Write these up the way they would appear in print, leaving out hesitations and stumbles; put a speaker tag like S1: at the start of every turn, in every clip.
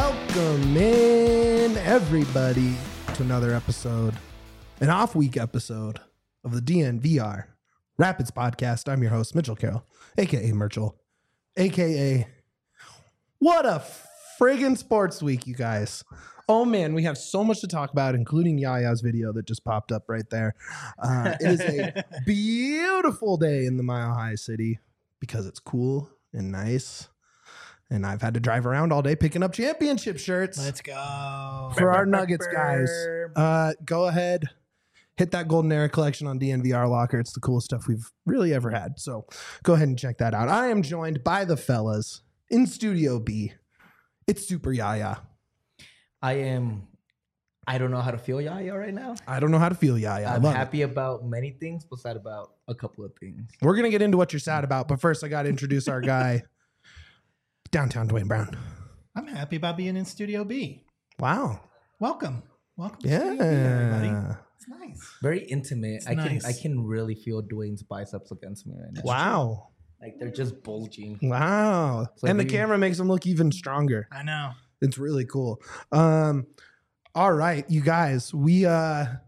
S1: Welcome in, everybody, to another episode, an off-week episode of the DNVR Rapids Podcast. I'm your host, Mitchell Carroll, a.k.a. Merchel, a.k.a. What a friggin' sports week, you guys. Oh, man, we have so much to talk about, including Yaya's video that just popped up right there. It is a beautiful day in the Mile High City because it's cool and nice. And I've had to drive around all day picking up championship shirts.
S2: Let's go.
S1: For our Nuggets guys. Go ahead, hit that Golden Era collection on DNVR Locker. It's the coolest stuff we've really ever had. So go ahead and check that out. I am joined by the fellas in Studio B. It's Super Yaya.
S3: I don't know how to feel Yaya right now.
S1: I don't know how to feel Yaya.
S3: I'm happy about many things, but sad about a couple of things.
S1: We're going to get into what you're sad about, but first I got to introduce our guy, Downtown Dwayne Brown.
S2: I'm happy about being in Studio B.
S1: Wow.
S2: Welcome to
S1: Yeah.
S2: Studio B, everybody. It's nice.
S3: Very intimate.
S2: It's
S3: I
S2: nice.
S3: can really feel Dwayne's biceps against me right now.
S1: Wow.
S3: Like they're just bulging.
S1: Wow.
S3: So
S1: and the
S3: maybe-
S1: camera makes him look even stronger.
S2: I know.
S1: It's really cool. All right, you guys, we have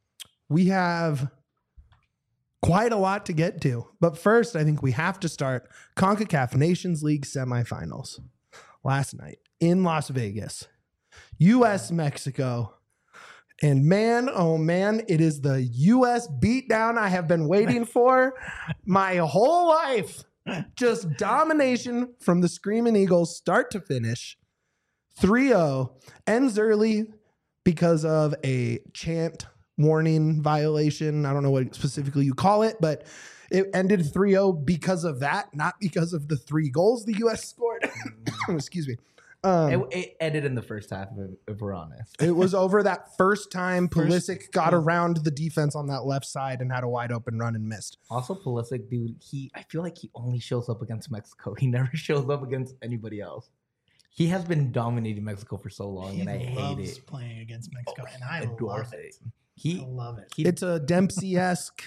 S1: quite a lot to get to. But first, I think we have to start CONCACAF Nations League semifinals last night in Las Vegas. US, Mexico. And man, oh man, it is the US beatdown I have been waiting for my whole life. Just domination from the Screaming Eagles, start to finish. 3-0, ends early because of a chant warning violation. I don't know what specifically you call it, but it ended 3-0 because of that, not because of the 3 goals the U.S. scored. Excuse me.
S3: It ended in the first half, if we're honest.
S1: It was over that first time Pulisic got
S2: yeah.
S1: around the defense on that left side and had a wide open run and missed.
S3: Also, Pulisic, dude, I feel like he only shows up against Mexico. He never shows up against anybody else. He has been dominating Mexico for so long,
S2: He
S3: and I hate
S2: loves
S3: it.
S2: playing against Mexico, and I
S3: adore
S2: love it.
S3: He
S2: I love it.
S1: It's a Dempsey-esque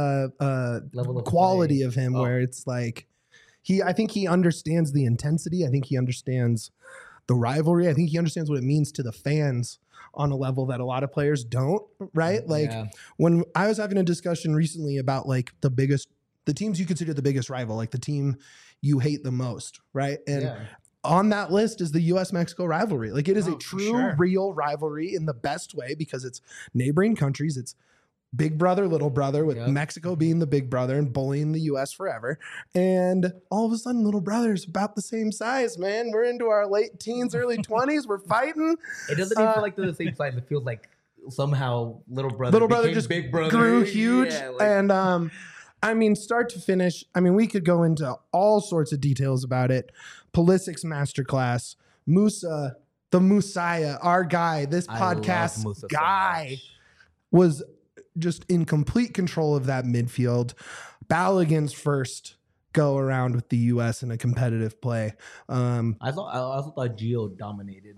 S3: level of
S1: quality
S3: play.
S1: of him
S3: Oh.
S1: where it's like I think he understands the intensity. I think he understands the rivalry. I think he understands what it means to the fans on a level that a lot of players don't, right? Like
S3: Yeah.
S1: when I was having a discussion recently about like the teams you consider the biggest rival, like the team you hate the most, right? And
S3: Yeah.
S1: on that list is the US-Mexico rivalry. Like it is a
S2: Oh, for
S1: true,
S2: sure.
S1: real rivalry in the best way because it's neighboring countries. It's big brother, little brother, with
S3: Yep.
S1: Mexico being the big brother and bullying the US forever. And all of a sudden, little brother's about the same size, man. We're into our late teens, early 20s. We're fighting.
S3: It doesn't even feel like they're the same size. It feels like somehow little brother became
S1: just
S3: big brother.
S1: grew huge.
S3: Yeah, like-
S1: And I mean, start to finish, I mean, we could go into all sorts of details about it. Pulisic's masterclass, Musa, the Messiah, our guy, this
S3: I love
S1: podcast
S3: Musa so
S1: guy
S3: much.
S1: was just in complete control of that midfield. Balogun's first go around with the U.S. in a competitive play.
S3: I also thought Gio dominated.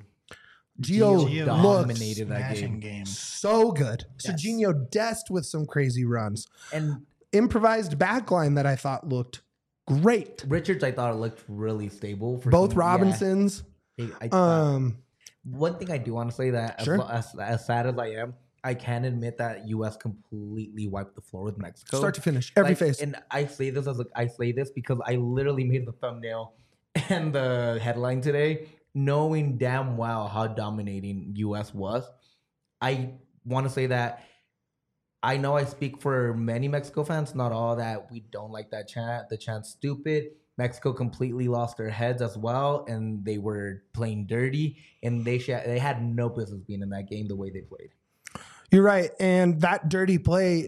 S1: Gio
S3: Gio
S1: looks
S3: dominated that
S2: Smashing
S3: game.
S1: so good.
S2: Yes.
S1: Serginho Dest with some crazy runs.
S3: And
S1: Improvised backline that I thought looked great.
S3: Richards, I thought looked really stable. For
S1: Both
S3: some-
S1: Robinsons.
S3: Yeah, I thought- one thing I do want to say that
S1: Sure.
S3: as sad as I am, I can admit that U.S. completely wiped the floor with Mexico.
S1: Start to finish, every
S3: Like,
S1: face.
S3: And I say this because I literally made the thumbnail and the headline today, knowing damn well how dominating U.S. was. I want to say that I know I speak for many Mexico fans, not all, that we don't like that chant. The chant's stupid. Mexico completely lost their heads as well, and they were playing dirty, and they had no business being in that game the way they played.
S1: You're right. And that dirty play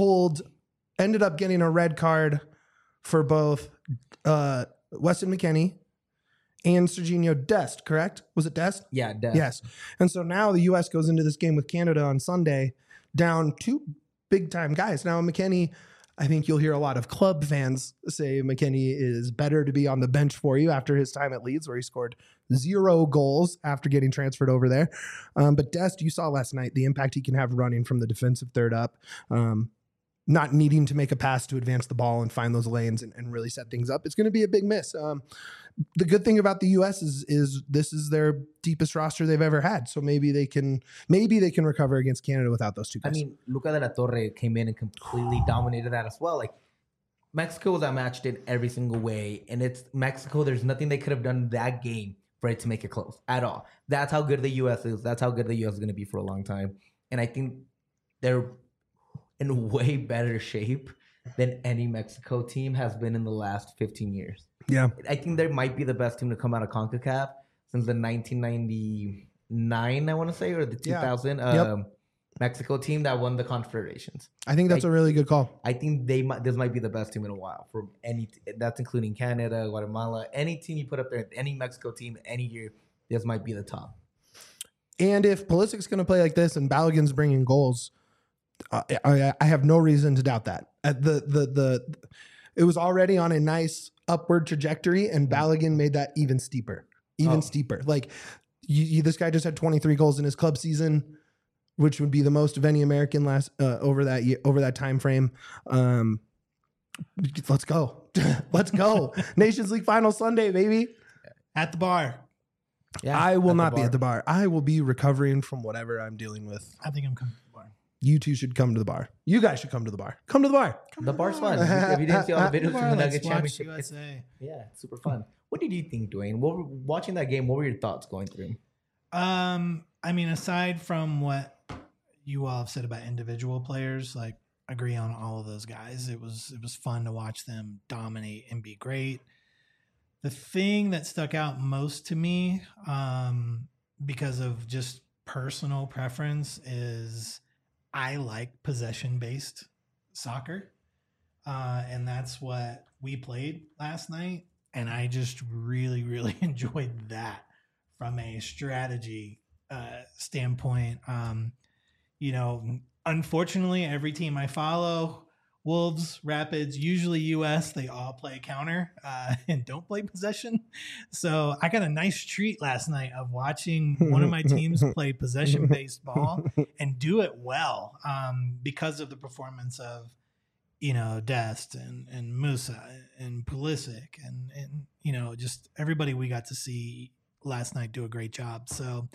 S1: ended up getting a red card for both Weston McKennie and Serginho Dest, correct? Was it Dest?
S3: Yeah,
S1: Yes. And so now the U.S. goes into this game with Canada on Sunday down 2 big-time guys. Now, McKennie, I think you'll hear a lot of club fans say McKennie is better to be on the bench for you after his time at Leeds, where he scored 0 goals after getting transferred over there. But Dest, you saw last night the impact he can have running from the defensive third up. not needing to make a pass to advance the ball and find those lanes and really set things up. It's going to be a big miss. The good thing about the U.S. is this is their deepest roster they've ever had. So maybe they can recover against Canada without those two guys.
S3: I mean, Luca de la Torre came in and completely dominated that as well. Like, Mexico was outmatched in every single way, and it's Mexico. There's nothing they could have done in that game for it to make it close at all. That's how good the U.S. is. That's how good the U.S. is going to be for a long time. And I think they're in way better shape than any Mexico team has been in the last 15 years.
S1: Yeah.
S3: I think they might be the best team to come out of CONCACAF since the 1999, I want to say, or the 2000 Mexico team that won the Confederations.
S1: I think that's a really good call.
S3: I think this might be the best team in a while from that's including Canada, Guatemala, any team you put up there, any Mexico team, any year, this might be the top.
S1: And if Pulisic's going to play like this and Balogun's bringing goals, I have no reason to doubt that. It was already on a nice upward trajectory, and Balogun made that even steeper. Like this guy just had 23 goals in his club season, which would be the most of any American over that time frame. Let's go. Let's go. Nations League final Sunday, baby.
S2: At the bar.
S3: Yeah,
S1: I will not be at the bar. I will be recovering from whatever I'm dealing with.
S2: I think I'm coming to the bar.
S1: You two should come to the bar. You guys should come to the bar. Come to the bar.
S3: The bar's fun. If you didn't see all the videos from the Nugget
S2: Let's watch
S3: Championship,
S2: USA.
S3: it's super fun. What did you think, Dwayne? Watching that game, what were your thoughts going through?
S2: I mean, aside from what you all have said about individual players, like agree on all of those guys. It was fun to watch them dominate and be great. The thing that stuck out most to me, because of just personal preference, is I like possession-based soccer. And that's what we played last night. And I just really, really enjoyed that from a strategy standpoint. Unfortunately, every team I follow, Wolves, Rapids, usually US, they all play counter and don't play possession. So I got a nice treat last night of watching one of my teams play possession-based ball and do it well because of the performance of, Dest and Musa and Pulisic and just everybody we got to see last night do a great job. So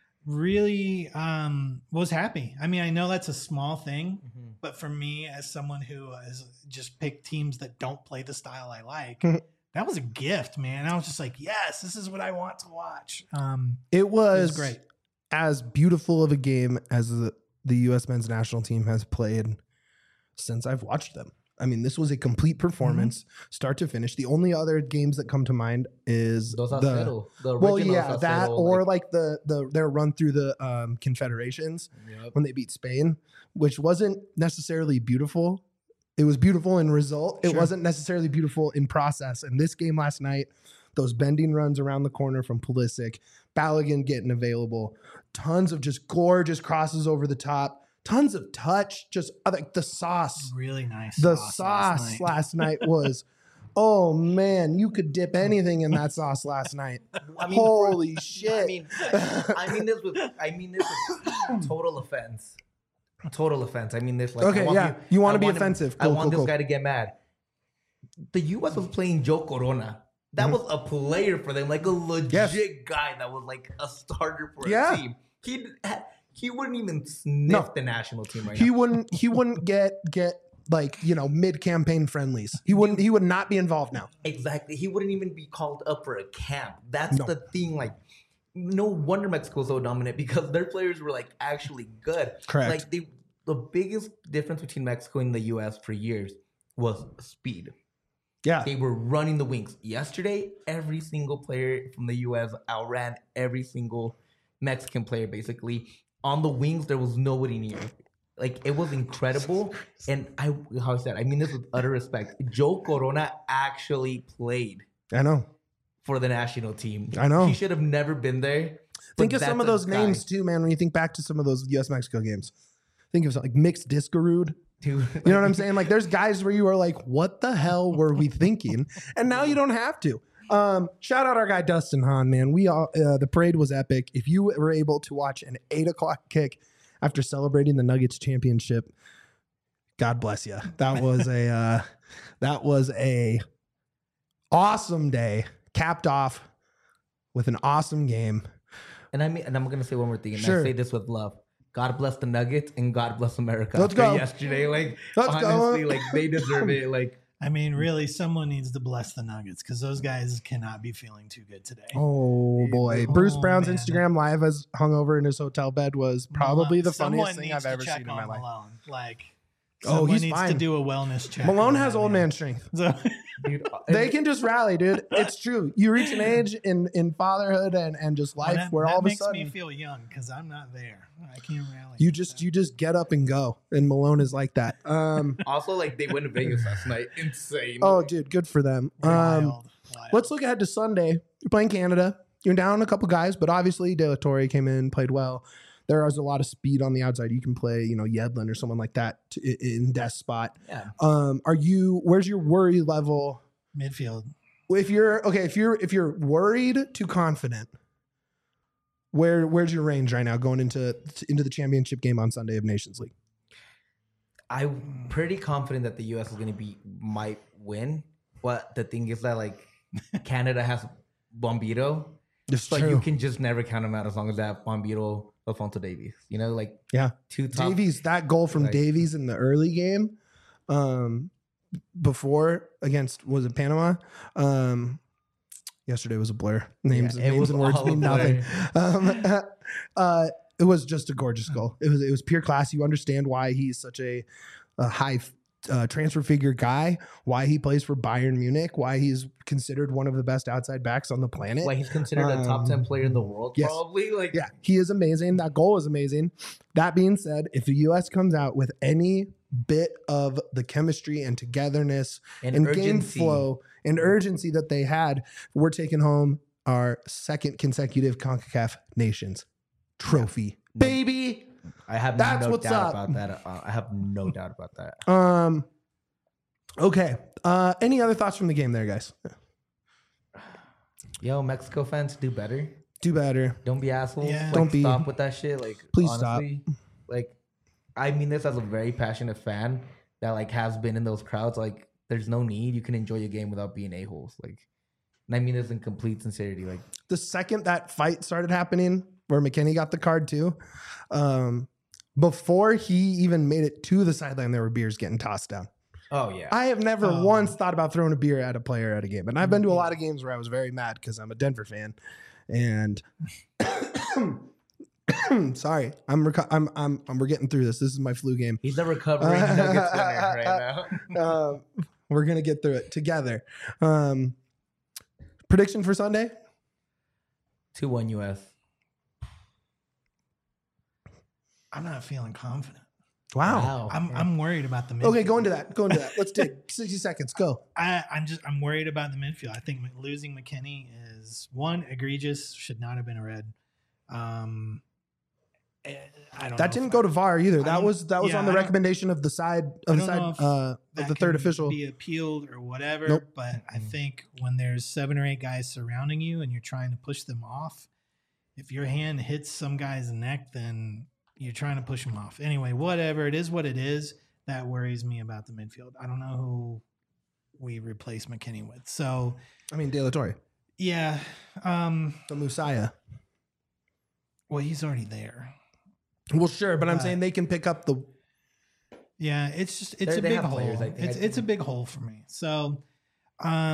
S2: really was happy. I mean, I know that's a small thing, but for me, as someone who has just picked teams that don't play the style I like, that was a gift, man. I was just like, yes, this is what I want to watch.
S1: It was
S2: great.
S1: As beautiful of a game as the U.S. men's national team has played since I've watched them. I mean, this was a complete performance, start to finish. The only other games that come to mind is
S3: Dos a cero. The original
S1: that
S3: Dos a cero,
S1: or like their run through the Confederations when they beat Spain, which wasn't necessarily beautiful. It was beautiful in result. It wasn't necessarily beautiful in process. And this game last night, those bending runs around the corner from Pulisic, Balogun getting available, tons of just gorgeous crosses over the top. Tons of touch, just like the sauce.
S2: Really nice.
S1: The sauce last night was, oh man, you could dip anything in that sauce last night. Holy shit!
S3: I mean this with total offense. Total offense. I mean this like.
S1: Okay, you want to be offensive.
S3: I want this guy to get mad. The U.S. was playing Joe Corona. That was a player for them, like a legit guy that was like a starter for a team. He wouldn't even sniff the national team right now.
S1: He wouldn't get like, mid-campaign friendlies. He would not be involved now.
S3: Exactly. He wouldn't even be called up for a camp. That's the thing. Like, no wonder Mexico was so dominant because their players were like actually good.
S1: Correct.
S3: Like the biggest difference between Mexico and the US for years was speed.
S1: Yeah.
S3: They were running the wings. Yesterday, every single player from the US outran every single Mexican player basically. On the wings, there was nobody near. Like, it was incredible. And I mean this with utter respect. Joe Corona actually played.
S1: I know.
S3: For the national team.
S1: I know.
S3: He should have never been there.
S1: Think of some of those names too, man, when you think back to some of those US-Mexico games. Think of something like Mixed Discarud.
S3: Dude.
S1: You know what I'm saying? Like, there's guys where you are like, what the hell were we thinking? And now you don't have to. Shout out our guy Dustin Hahn, man. We all the parade was epic. If you were able to watch an 8:00 kick after celebrating the Nuggets championship, God bless you. That was a awesome day, capped off with an awesome game.
S3: And I'm gonna say one more thing, and
S1: Sure.
S3: I say this with love. God bless the Nuggets and God bless America.
S1: Let's
S3: for
S1: go.
S3: Yesterday, like
S1: Let's
S3: honestly,
S1: go.
S3: like they deserve it. Like
S2: I mean, really, someone needs to bless the Nuggets because those guys cannot be feeling too good today.
S1: Oh boy,
S2: Oh,
S1: Bruce Brown's
S2: man.
S1: Instagram live as hungover in his hotel bed was probably the funniest
S2: Someone
S1: thing
S2: needs
S1: I've
S2: to
S1: ever
S2: check
S1: seen in my
S2: on
S1: life.
S2: Malone. Like,
S1: Oh,
S2: someone
S1: he's
S2: needs
S1: fine.
S2: to do a wellness check.
S1: Malone
S2: on
S1: has
S2: that
S1: old
S2: man.
S1: man strength.
S2: So,
S3: dude,
S1: They can just rally, dude. It's true. You reach an age in fatherhood and just life
S2: that,
S1: where
S2: that
S1: all of a
S2: makes me
S1: sudden
S2: feel young because I'm not there. I can't rally.
S1: you just get up and go. And Malone is like that.
S3: also like they went to Vegas last night. Insane.
S1: Oh, dude, good for them.
S2: Wild.
S1: Let's look ahead to Sunday. You're playing Canada. You're down a couple guys, but obviously De La Torre came in, played well. There is a lot of speed on the outside. You can play, Yedlin or someone like that in Dest's spot.
S3: Yeah.
S1: Where's your worry level?
S2: midfield.
S1: If you're worried to confident, where's your range right now going into the championship game on Sunday of Nations League?
S3: I'm pretty confident that the U.S. is might win. But the thing is that like Canada has Bombito,
S1: It's
S3: but
S1: true.
S3: you can just never count them out as long as they have Bombito, Alfonso Davies. Like
S1: Yeah.
S3: two top.
S1: Davies, that goal from
S3: like-
S1: Davies in the early game, before against, was it Panama? Yesterday was a blur. Names
S3: Yeah, it
S1: and
S3: was
S1: words
S3: all a
S1: mean
S3: blur.
S1: nothing. It was just a gorgeous goal. It was pure class. You understand why he's such a high transfer figure guy, why he plays for Bayern Munich, why he's considered one of the best outside backs on the planet.
S3: Why he's considered a top 10 player in the world,
S1: yes.
S3: probably. Like,
S1: Yeah, he is amazing. That goal is amazing. That being said, if the U.S. comes out with any bit of the chemistry and togetherness
S3: and
S1: and
S3: urgency.
S1: game flow and urgency that they had, we're taking home our second consecutive CONCACAF Nations trophy.
S3: No.
S1: Baby.
S3: I have
S1: That's
S3: no
S1: what's
S3: doubt
S1: up.
S3: about that. I have no doubt about that.
S1: Okay. Any other thoughts from the game there, guys?
S3: Yo, Mexico fans, do better.
S1: Do better.
S3: Don't be assholes.
S2: Yeah.
S3: Like,
S1: Don't be-
S3: stop with that shit. Like,
S1: Please
S3: honestly, like, I mean this as a very passionate fan that like has been in those crowds. Like, there's no need. You can enjoy your game without being a-holes. Like, and I mean this in complete sincerity. Like,
S1: The second that fight started happening, where McKennie got the card too, before he even made it to the sideline, there were beers getting tossed down.
S3: oh yeah.
S1: I have never
S2: Oh.
S1: once thought about throwing a beer at a player at a game, and I've been to a lot of games where I was very mad because I'm a Denver fan, and sorry, we're getting through this. This is my flu game.
S3: He's a recovering Nuggets winner right now.
S1: We're gonna get through it together. Prediction for Sunday?
S3: 2-1 US.
S2: I'm not feeling confident.
S1: Wow.
S2: I'm worried about the midfield.
S1: Okay, go into that. Let's take 60 seconds. Go.
S2: I'm worried about the midfield. I think losing McKennie is one egregious. Should not have been a red. I don't.
S1: That didn't go to VAR either. That was
S2: yeah,
S1: on the
S2: I don't-
S1: recommendation of the side
S2: I
S1: of
S2: don't know if
S1: of
S2: that
S1: the third
S2: can
S1: official.
S2: be appealed or whatever.
S1: Nope.
S2: But I think when there's 7 or 8 guys surrounding you and you're trying to push them off, if your hand hits some guy's neck, then you're trying to push him off. Anyway, whatever. It is what it is. That worries me about the midfield. I don't know who we replace McKennie with. So
S1: I mean, De La Torre,
S2: yeah.
S1: the Messiah.
S2: Well, he's already there.
S1: Well, sure, but I'm
S2: But-
S1: saying they can pick up the.
S2: Yeah, it's
S3: They
S2: a big
S3: have
S2: hole.
S3: players, I think.
S2: It's a big hole for me. So,
S3: I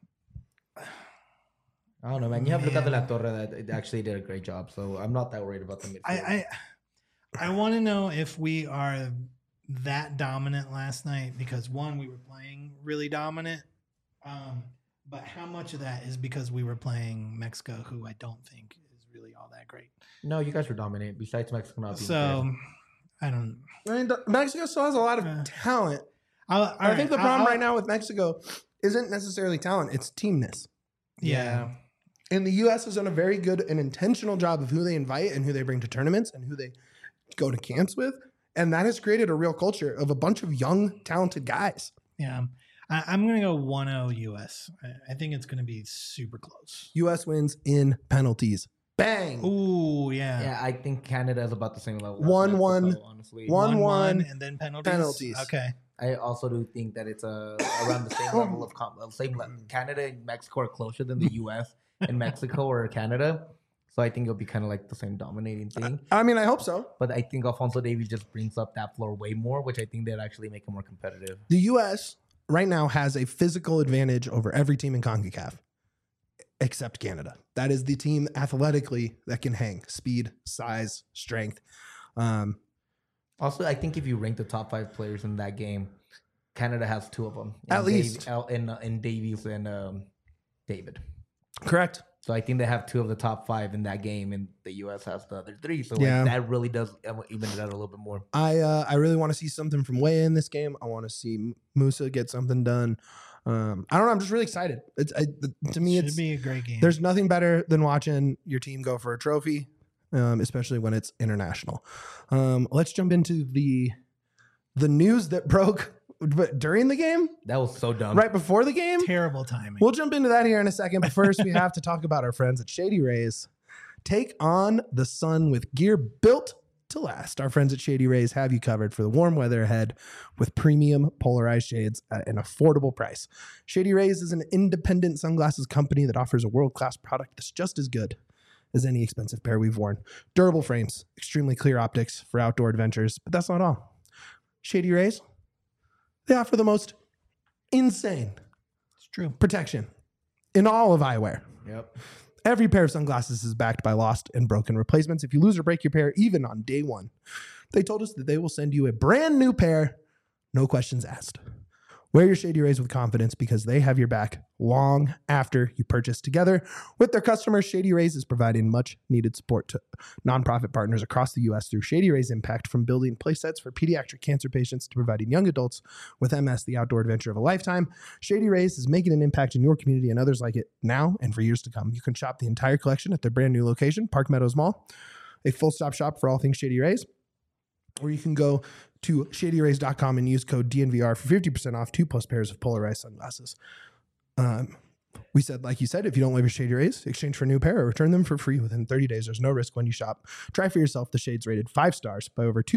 S3: don't know, man. You have Lucas de la
S2: Man.
S3: Torre that actually did a great job, so I'm not that worried about the midfield.
S2: I want to know if we are that dominant last night because one, we were playing really dominant, but how much of that is because we were playing Mexico, who I don't think is really all that great.
S3: No, you guys were dominant. Besides Mexico not being
S2: So I don't.
S1: I mean, Mexico still has a lot of
S2: Uh,
S1: talent.
S2: All
S1: I think the problem
S2: I'll-
S1: right now with Mexico isn't necessarily talent; it's teamness.
S2: Yeah.
S1: And the U.S. has done a very good and intentional job of who they invite and who they bring to tournaments and who they go to camps with. And that has created a real culture of a bunch of young, talented guys.
S2: Yeah. I'm going to go 1-0 US. I think it's going to be super close.
S1: U.S. wins in penalties. Bang.
S2: Ooh, yeah.
S3: Yeah, I think Canada is about the same level. as
S1: 1-1.
S3: Mexico, honestly.
S1: 1-1,
S2: and then penalties.
S1: penalties.
S2: Okay.
S3: I also do think that it's around the same level of Canada and Mexico are closer than the U.S. and Mexico or Canada, so I think it'll be kind of like the same dominating thing.
S1: I mean, I hope so.
S3: But I think Alfonso Davies just brings up that floor way more, which I think they'd actually make it more competitive.
S1: The U.S. right now has a physical advantage over every team in CONCACAF except Canada. That is the team athletically that can hang. Speed, size, strength.
S3: Also, I think if you rank the top 5 players in that game, Canada has 2 of them.
S1: At least.
S3: In Davies and David.
S1: Correct.
S3: So I think they have 2 of the top 5 in that game, and the U.S. has the other 3. So
S1: Yeah.
S3: that really does even it out a little bit more.
S1: I really want to see something from Weah in this game. I want to see Musa get something done. I don't know. I'm just really excited. To me,
S2: Should be a great game.
S1: There's nothing better than watching your team go for a trophy, especially when it's international. Let's jump into the news that broke during the game,
S3: That was so dumb.
S1: right before the game.
S2: Terrible timing.
S1: We'll jump into that here in a second. But first, we have to talk about our friends at Shady Rays. Take on the sun with gear built to last. Our friends at Shady Rays have you covered for the warm weather ahead with premium polarized shades at an affordable price. Shady Rays is an independent sunglasses company that offers a world-class product that's just as good as any expensive pair we've worn. Durable frames, extremely clear optics for outdoor adventures, but that's not all. Shady Rays, they offer the most insane
S2: It's true.
S1: protection in all of eyewear.
S3: Yep.
S1: Every pair of sunglasses is backed by lost and broken replacements. If you lose or break your pair, even on day 1, they told us that they will send you a brand new pair, no questions asked. Wear your Shady Rays with confidence because they have your back long after you purchase. Together with their customers, Shady Rays is providing much needed support to nonprofit partners across the U.S. through Shady Rays Impact, from building play sets for pediatric cancer patients to providing young adults with MS the outdoor adventure of a lifetime. Shady Rays is making an impact in your community and others like it now and for years to come. You can shop the entire collection at their brand new location, Park Meadows Mall, a full-stop shop for all things Shady Rays. Or you can go to shadyrays.com and use code DNVR for 50% off 2+ pairs of polarized sunglasses. We said, like you said, if you don't love your Shady Rays, exchange for a new pair or return them for free within 30 days. There's no risk when you shop. Try for yourself the shades rated 5 stars by over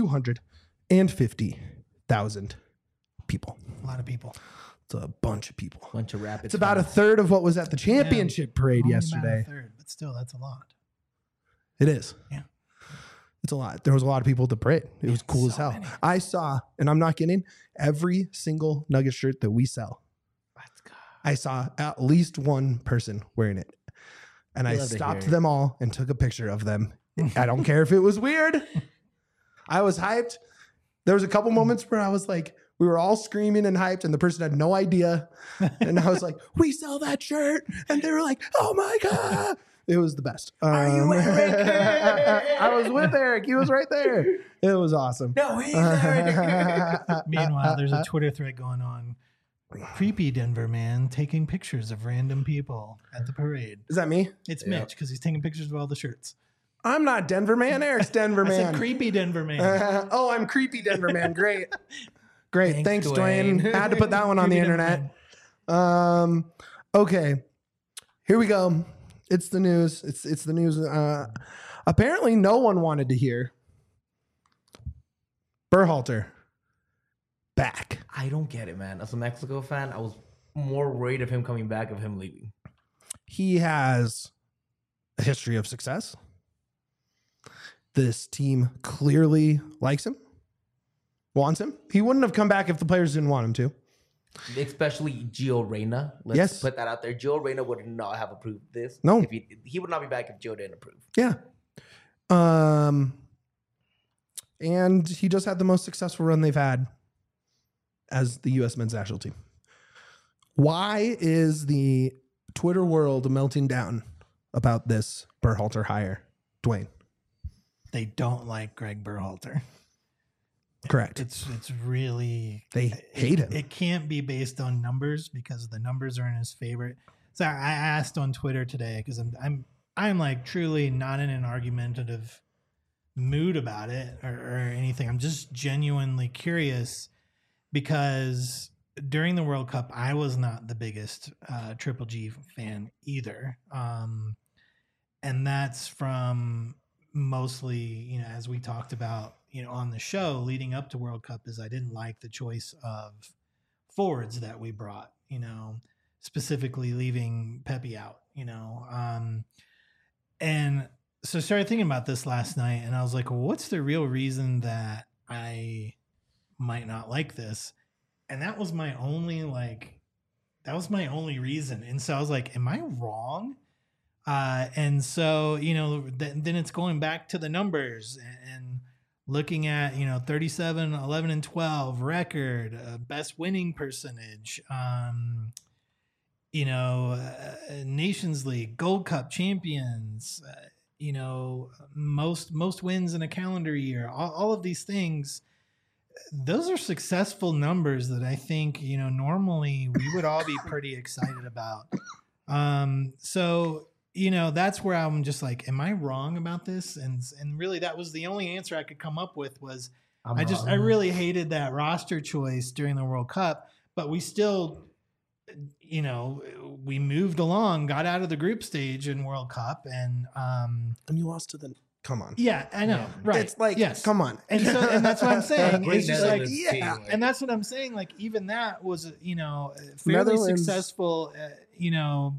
S1: 250,000 people.
S2: A lot of people.
S1: It's a bunch of people.
S3: Bunch of rapids.
S1: It's about a third of what was at the championship parade
S2: Only about a
S1: yesterday.
S2: third, but still, that's a lot.
S1: It is.
S2: Yeah.
S1: It's a lot. There was a lot of people at the parade. It was cool as hell.
S2: many.
S1: I saw, and I'm not kidding, every single Nugget shirt that we sell.
S3: Let's go.
S1: I saw at least one person wearing it. And I
S3: Love to
S1: stopped
S3: hear it.
S1: them all and took a picture of them. I don't care if it was weird. I was hyped. There was a couple moments where I was like, we were all screaming and hyped, and the person had no idea. And I was like, we sell that shirt. And they were like, oh my God. It was the best.
S3: Are you Eric?
S1: I was with Eric. He was right there. It was awesome.
S3: No, he's Eric.
S2: Meanwhile, there's a Twitter thread going on. Creepy Denver man taking pictures of random people at the parade.
S1: Is that me?
S2: It's
S3: Yeah.
S2: Mitch because he's taking pictures of all the shirts.
S1: I'm not Denver man. Eric's Denver
S2: I
S1: man.
S2: said creepy Denver man.
S1: Oh, I'm creepy Denver man. Great. Great. Thanks,
S3: Thanks,
S1: Dwayne.
S3: Dwayne.
S1: I had to put that one on the
S2: Creepy Denver
S1: internet.
S2: man.
S1: Okay. Here we go. It's the news. It's the news. Apparently no one wanted to hear Berhalter back.
S3: I don't get it, man. As a Mexico fan, I was more worried of him coming back, of him leaving.
S1: He has a history of success. This team clearly likes him, wants him. He wouldn't have come back if the players didn't want him to.
S3: Especially Gio Reyna. Let's
S1: Yes.
S3: put that out there. Gio Reyna would not have approved this.
S1: No.
S3: If he would not be back if Gio didn't approve.
S1: Yeah. And he just had the most successful run they've had as the U.S. men's national team. Why is the Twitter world melting down about this Berhalter hire, Dwayne?
S2: They don't like Greg Berhalter.
S1: Correct.
S2: It's really
S1: They hate him.
S2: It can't be based on numbers because the numbers are in his favor. So I asked on Twitter today because I'm like truly not in an argumentative mood about it or anything. I'm just genuinely curious because during the World Cup, I was not the biggest Triple G fan either. And that's from mostly, you know, as we talked about, you know, on the show leading up to World Cup, is I didn't like the choice of forwards that we brought, you know, specifically leaving Pepe out, you know. And so I started thinking about this last night, and I was like, well, what's the real reason that I might not like this? And that was my only reason. And so I was like, am I wrong? And so, you know, then it's going back to the numbers and looking at, you know, 37, 11 and 12 record, best winning percentage, you know, Nations League, Gold Cup champions, you know, most wins in a calendar year, all of these things. Those are successful numbers that I think, you know, normally we would all be pretty excited about. So, you know, that's where I'm just like, am I wrong about this? And really that was the only answer I could come up with was I really hated that roster choice during the World Cup, but we still, you know, we moved along, got out of the group stage in World Cup, and
S1: you lost to the. Come on.
S2: Yeah, I know. Yeah. Right.
S1: It's like, yes. Come on.
S2: And that's what I'm saying. It's just like,
S1: yeah.
S2: And that's what I'm saying. Like, even that was, you know, fairly successful, you know,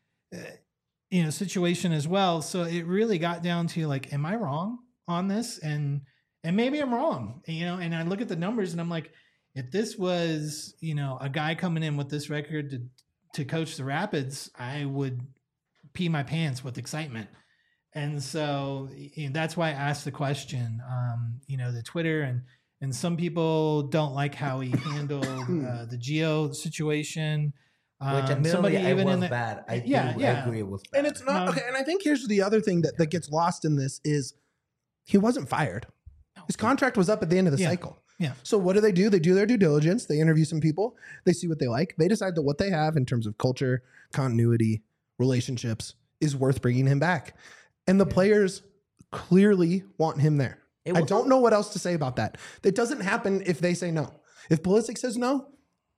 S2: situation as well. So it really got down to like, am I wrong on this? And maybe I'm wrong, you know, and I look at the numbers and I'm like, if this was, you know, a guy coming in with this record to coach the Rapids, I would pee my pants with excitement. And so, you know, that's why I asked the question, you know, the Twitter and some people don't like how he handled the Gio situation.
S3: Which admittedly, it was bad. I agree it was bad.
S1: And it's not, okay, and I think here's the other thing that gets lost in this is he wasn't fired. His contract was up at the end of the cycle.
S2: Yeah.
S1: So what do? They do their due diligence. They interview some people. They see what they like. They decide that what they have in terms of culture, continuity, relationships is worth bringing him back. And the players clearly want him there. I don't know what else to say about that. That doesn't happen if they say no. If Pulisic says no,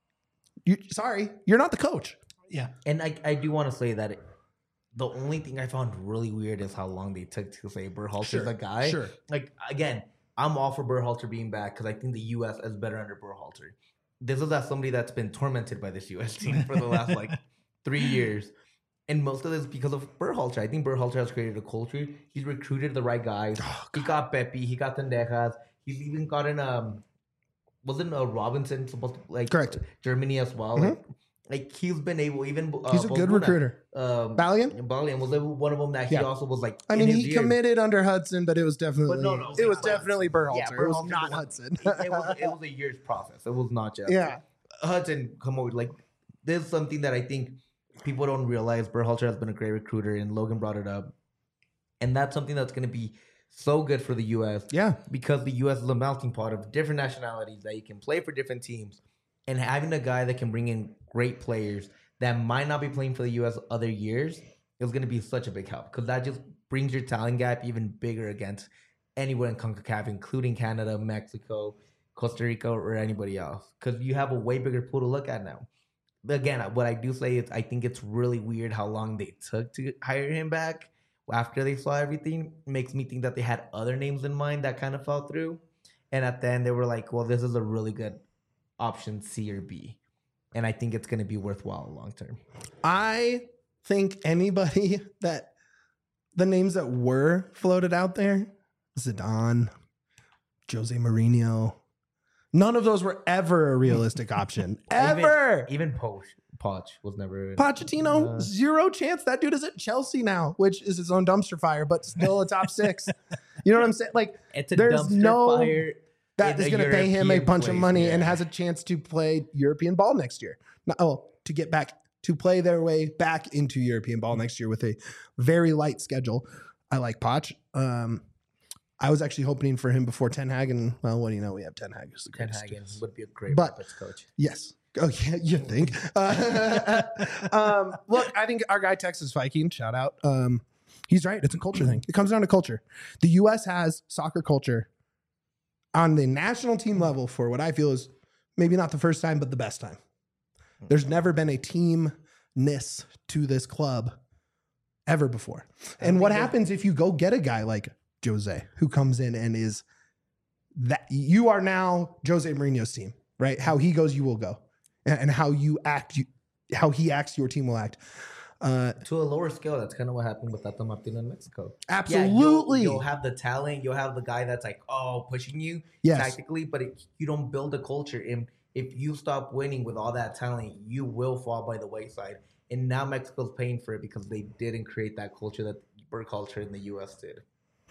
S1: you're not the coach.
S2: Yeah.
S3: And I do want to say that the only thing I found really weird is how long they took to say Berhalter's the guy.
S1: Sure.
S3: Like, again, I'm all for Berhalter being back because I think the U.S. is better under Berhalter. This is as somebody that's been tormented by this U.S. team for the last, 3 years. And most of this is because of Berhalter. I think Berhalter has created a culture. He's recruited the right guys. He got Pepe. He got Tendejas. He's even gotten wasn't Robinson supposed to
S1: correct
S3: Germany as well?
S1: Mm-hmm.
S3: Like he's been able. Even
S1: he's a good recruiter.
S3: Balian was one of them that he also was like.
S1: I mean, he committed under Hudson, but it was definitely
S3: it
S1: was definitely Berhalter.
S3: Yeah,
S1: it was not Hudson.
S3: it was a year's process. It was not just Hudson come over. Like there's something that I think people don't realize. Berhalter has been a great recruiter, and Logan brought it up. And that's something that's going to be so good for the U.S.
S1: Yeah.
S3: Because the U.S. is a melting pot of different nationalities that you can play for different teams. And having a guy that can bring in great players that might not be playing for the U.S. other years is going to be such a big help. Because that just brings your talent gap even bigger against anywhere in CONCACAF, including Canada, Mexico, Costa Rica, or anybody else. Because you have a way bigger pool to look at now. Again, what I do say is I think it's really weird how long they took to hire him back after they saw everything. It makes me think that they had other names in mind that kind of fell through. And at the end, they were like, well, this is a really good option C or B. And I think it's going to be worthwhile long term.
S1: I think anybody that the names that were floated out there, Zidane, Jose Mourinho, none of those were ever a realistic option. Ever.
S3: Even Poch was never.
S1: Pochettino, zero chance. That dude is at Chelsea now, which is his own dumpster fire, but still a top six. You know what I'm saying? Like,
S3: it's a
S1: there's
S3: dumpster fire.
S1: That is going to pay him a bunch of money and has a chance to play European ball next year. To get back, to play their way back into European ball next year with a very light schedule. I like Poch. I was actually hoping for him before Ten Hag, and well, what do you know? We have Ten Hag as the greatest.
S3: Ten Hag would be a great Rapids coach.
S1: Yes. Oh yeah, you think? Look, I think our guy Texas Viking, shout out. He's right. It's a culture thing. It comes down to culture. The U.S. has soccer culture on the national team level for what I feel is maybe not the first time, but the best time. There's never been a teamness to this club ever before. And what happens if you go get a guy like Jose who comes in and is that you are now Jose Mourinho's team, right? How he goes, you will go, and how you act, how he acts, your team will act.
S3: To a lower scale, that's kind of what happened with Tata Martino in Mexico.
S1: Absolutely.
S3: You'll have the talent. You'll have the guy that's like, pushing you tactically, but you don't build a culture. And if you stop winning with all that talent, you will fall by the wayside. And now Mexico's paying for it because they didn't create that culture that Berhalter in the U.S. did.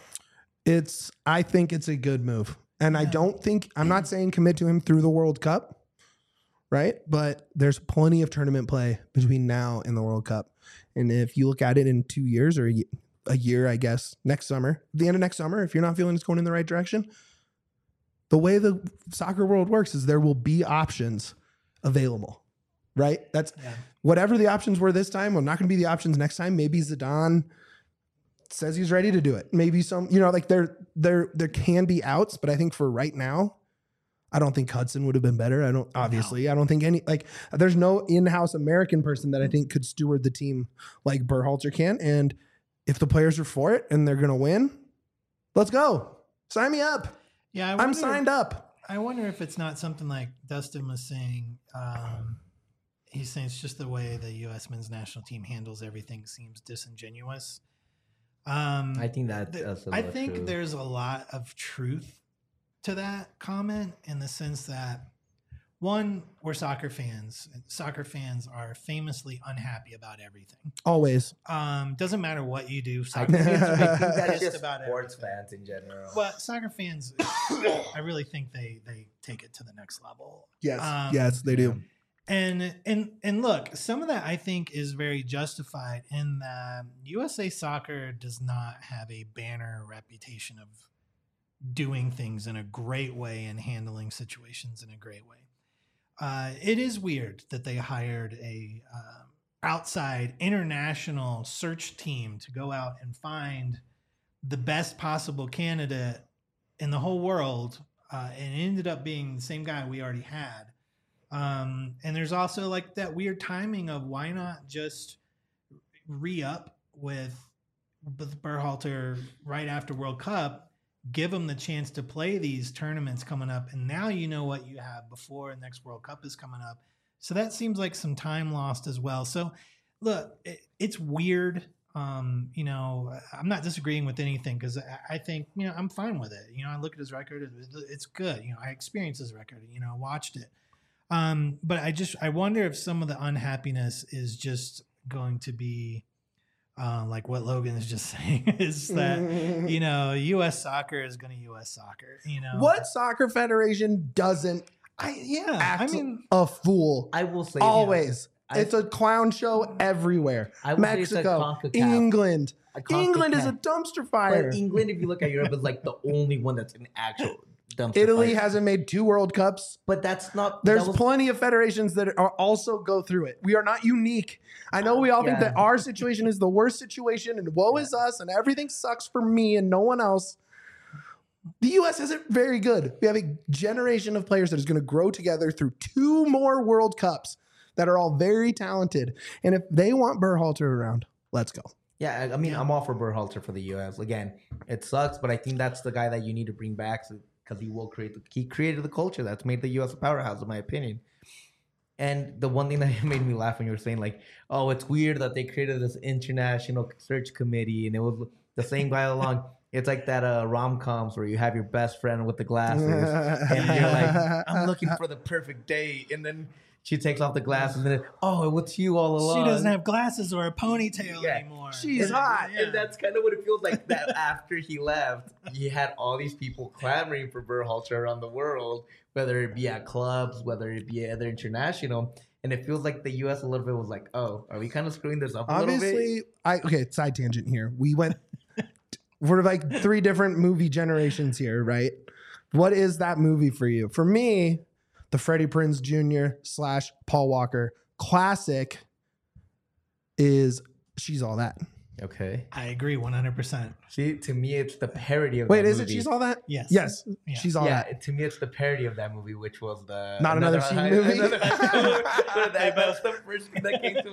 S1: I think it's a good move. And I'm not saying commit to him through the World Cup, right? But there's plenty of tournament play between now and the World Cup. And if you look at it in 2 years or a year, I guess, next summer, the end of next summer, if you're not feeling it's going in the right direction, the way the soccer world works is there will be options available, right? That's whatever the options were this time, well, not going to be the options next time. Maybe Zidane says he's ready to do it. Maybe like there can be outs, but I think for right now, I don't think Hudson would have been better. I don't think there's no in-house American person that I think could steward the team like Berhalter can. And if the players are for it and they're going to win, let's go. Sign me up.
S2: Yeah.
S1: I'm signed up.
S2: I wonder if it's not something like Dustin was saying. He's saying it's just the way the U.S. men's national team handles everything seems disingenuous.
S3: I think that's true.
S2: There's a lot of truth to that comment in the sense that, one, we're soccer fans. Soccer fans are famously unhappy about everything.
S1: Always.
S2: Doesn't matter what you do.
S3: I think that's just about sports fans in general.
S2: But soccer fans, I really think they take it to the next level.
S1: Yes. Yes, they do.
S2: And look, some of that I think is very justified in that USA Soccer does not have a banner reputation of doing things in a great way and handling situations in a great way. It is weird that they hired a outside international search team to go out and find the best possible candidate in the whole world, and it ended up being the same guy we already had. And there's also like that weird timing of why not just re-up with Berhalter right after World Cup, give them the chance to play these tournaments coming up. And now you know what you have before the next World Cup is coming up. So that seems like some time lost as well. So look, it's weird. I'm not disagreeing with anything because I think, I'm fine with it. I look at his record. It's good. I experienced his record, watched it. But I wonder if some of the unhappiness is just going to be like what Logan is just saying is that, U.S. soccer is going to U.S. soccer,
S1: What soccer federation doesn't act a fool?
S3: I will say
S1: always. It's a clown show everywhere. Mexico, England. England is a dumpster fire.
S3: But England, if you look at Europe, is like the only one that's an actual dumpster
S1: Italy
S3: fire.
S1: hasn't made 2 World Cups.
S3: But that's not...
S1: There's plenty of federations that are also go through it. We are not unique. I know we all think that our situation is the worst situation and woe is us and everything sucks for me and no one else. The U.S. isn't very good. We have a generation of players that is going to grow together through 2 more World Cups that are all very talented. And if they want Berhalter around, let's go.
S3: Yeah, I mean, I'm all for Berhalter for the U.S. Again, it sucks, but I think that's the guy that you need to bring back because he created the culture that's made the U.S. a powerhouse, in my opinion. And the one thing that made me laugh when you were saying, like, oh, it's weird that they created this international search committee and it was the same guy all along. It's like that rom-coms where you have your best friend with the glasses and you're like, I'm looking for the perfect date. And then she takes off the glasses and then, oh, it's you all along.
S2: She doesn't have glasses or a ponytail anymore.
S1: She's hot.
S3: And that's kind of what it feels like that after he left, he had all these people clamoring for Berhalter around the world, whether it be at clubs, whether it be other international. And it feels like the U.S. a little bit was like, oh, are we kind of screwing this up a little bit?
S1: Okay, side tangent here. We're like 3 different movie generations here, right? What is that movie for you? For me, the Freddie Prinze Jr. / Paul Walker classic is She's All That.
S3: Okay.
S2: I agree 100%.
S3: See, to me, it's the parody of
S1: Wait,
S3: that
S1: is it
S3: movie.
S1: She's All That?
S2: Yes.
S1: Yes.
S2: Yeah.
S1: She's All
S3: Yeah,
S1: That.
S3: to me, it's the parody of that movie, which was the
S1: Not Another Teen Movie?
S3: That's the first thing that came to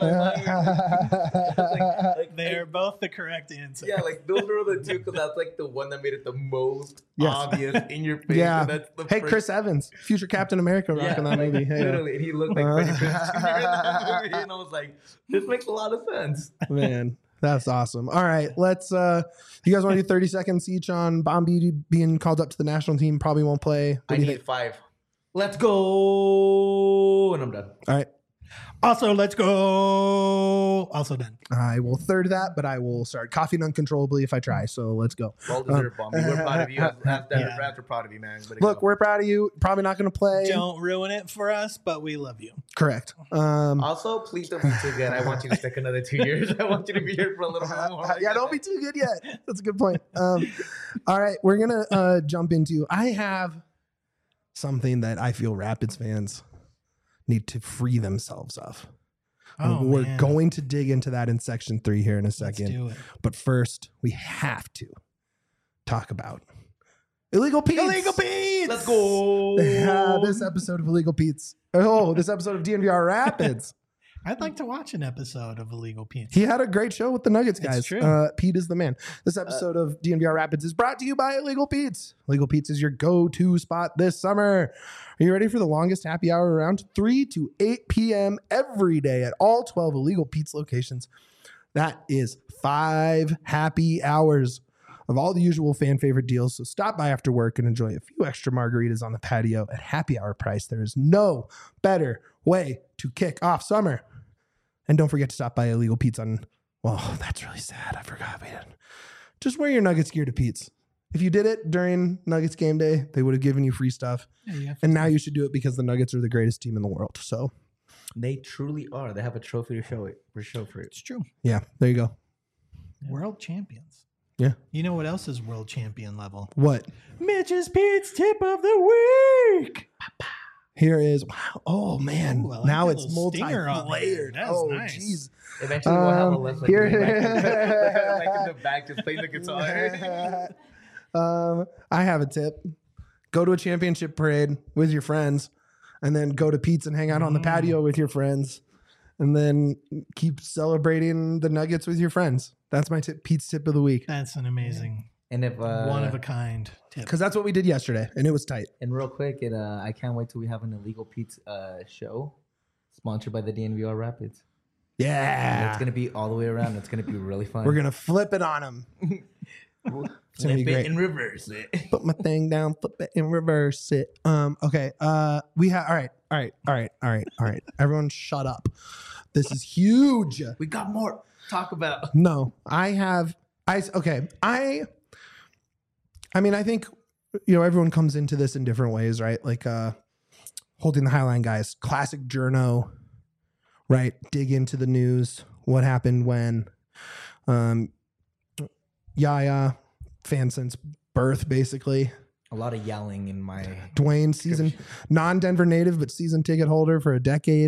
S3: my mind.
S2: They're both the correct answer.
S3: Yeah, like those were the two because that's like the one that made it the most
S1: Yes.
S3: obvious in your face.
S1: Yeah.
S3: And that's the
S1: Hey,
S3: first-
S1: Chris Evans, future Captain America, rocking that
S3: like,
S1: movie. Hey,
S3: literally, and he looked like Freddie Prinze Jr. in that movie, and I was like, this makes a lot of sense.
S1: man, that's awesome. All right, let's. You guys want to do 30 seconds each on Bombi being called up to the national team? Probably won't play. What
S3: I
S1: do you
S3: need
S1: think?
S3: 5. Let's go, and I'm done.
S1: All right,
S2: Also, let's go. Also done.
S1: I will third that, but I will start coughing uncontrollably if I try. So let's go.
S3: Well deserved, Bombi. We're proud of you. As
S2: Yeah.
S3: Rats are proud of you, man. Way to
S1: Look,
S3: go.
S1: we're proud of you. Probably not going to play.
S2: Don't ruin it for us, but we love you.
S1: Correct.
S3: Also, please don't be too good. I want you to stick another 2 years. I want you to be here for a little bit more.
S1: Yeah, don't be too good yet. That's a good point. All right, we're gonna jump into. I have something that I feel Rapids fans need to free themselves of.
S2: Oh,
S1: We're
S2: man.
S1: going to dig into that in section 3 here in a
S2: Let's
S1: second.
S2: do it.
S1: But first, we have to talk about Illegal Pete's.
S2: Illegal Pete's.
S3: Let's go.
S1: This episode of Illegal Pete's. Oh, this episode of DNVR Rapids.
S2: I'd like to watch an episode of Illegal Pete's.
S1: He had a great show with the Nuggets
S2: It's
S1: guys.
S2: true.
S1: Pete is the man. This episode of DNVR Rapids is brought to you by Illegal Pete's. Illegal Pete's is your go-to spot this summer. Are you ready for the longest happy hour around? 3 to 8 p.m. every day at all 12 Illegal Pete's locations. That is 5 happy hours of all the usual fan favorite deals. So stop by after work and enjoy a few extra margaritas on the patio at happy hour price. There is no better way to kick off summer. And don't forget to stop by Illegal Pete's on, well, that's really sad. I forgot we didn't. Just wear your Nuggets gear to Pete's. If you did it during Nuggets game day, they would have given you free stuff.
S2: Yeah, you have to-
S1: And now you should do it because the Nuggets are the greatest team in the world. So,
S3: They truly are. They have a trophy to show it. For it.
S2: It's true.
S1: yeah, there you go.
S2: World champions.
S1: Yeah.
S2: You know what else is world champion level?
S1: What?
S2: Mitch's Pete's tip of the week.
S1: Here is, wow. Oh, man.
S2: Ooh, I like
S1: now
S2: that
S1: it's
S2: little stinger on there.
S1: multi-layered.
S2: That's
S1: Oh,
S2: nice.
S1: jeez.
S3: Eventually, we'll have a lesson.
S1: here-
S3: Like in the back, just playing the guitar.
S1: I have a tip. Go to a championship parade with your friends and then go to Pete's and hang out on the patio with your friends and then keep celebrating the Nuggets with your friends. That's my tip, Pete's tip of the week.
S2: That's an amazing,
S3: And if
S2: one of a kind tip.
S1: Because that's what we did yesterday and it was tight.
S3: and real quick, I can't wait till we have an Illegal Pete's show sponsored by the DNVR Rapids. And
S1: Yeah.
S3: it's gonna be all the way around. It's gonna be really fun.
S1: We're going to flip it on them. It's gonna be
S3: flip it
S1: great.
S3: and reverse it.
S1: Put my thing down, flip it and reverse it. Okay. We have, all right. Everyone shut up. This is huge.
S3: We got more to talk about.
S1: No, I mean, I think, everyone comes into this in different ways, right? Like, holding the Highline guys, classic journo, right? Dig into the news. What happened when, Yaya, fan since birth, basically.
S3: A lot of yelling in my.
S1: Dwayne, season non-Denver native, but season ticket holder for a decade.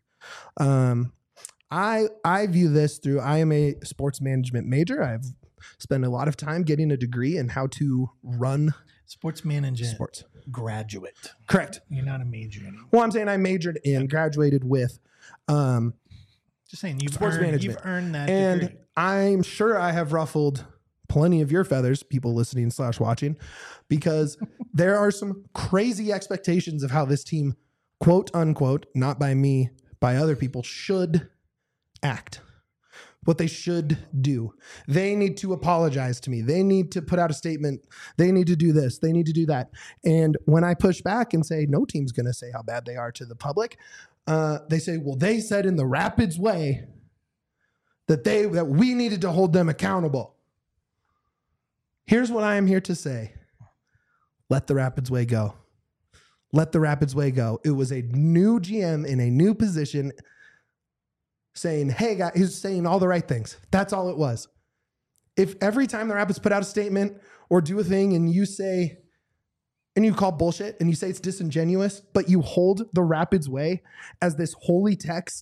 S1: I view this through, I am a sports management major. I've spent a lot of time getting a degree in how to run
S2: Sports management
S1: sports.
S2: graduate.
S1: Correct.
S2: You're not a major anymore.
S1: Well, I'm saying I majored in, graduated with,
S2: Just saying, you've
S1: Sports
S2: earned,
S1: management.
S2: You've earned that
S1: and
S2: degree.
S1: I'm sure I have ruffled plenty of your feathers, people listening / watching, because there are some crazy expectations of how this team, quote unquote, not by me, by other people, should act. What they should do. They need to apologize to me. They need to put out a statement. They need to do this. They need to do that. And when I push back and say, no team's going to say how bad they are to the public, they say, well, they said in the Rapids way that we needed to hold them accountable. Here's what I am here to say. Let the Rapids way go. Let the Rapids way go. It was a new GM in a new position saying, hey, guys, he's saying all the right things. That's all it was. If every time the Rapids put out a statement or do a thing and you say, and you call bullshit and you say it's disingenuous, but you hold the Rapids way as this holy text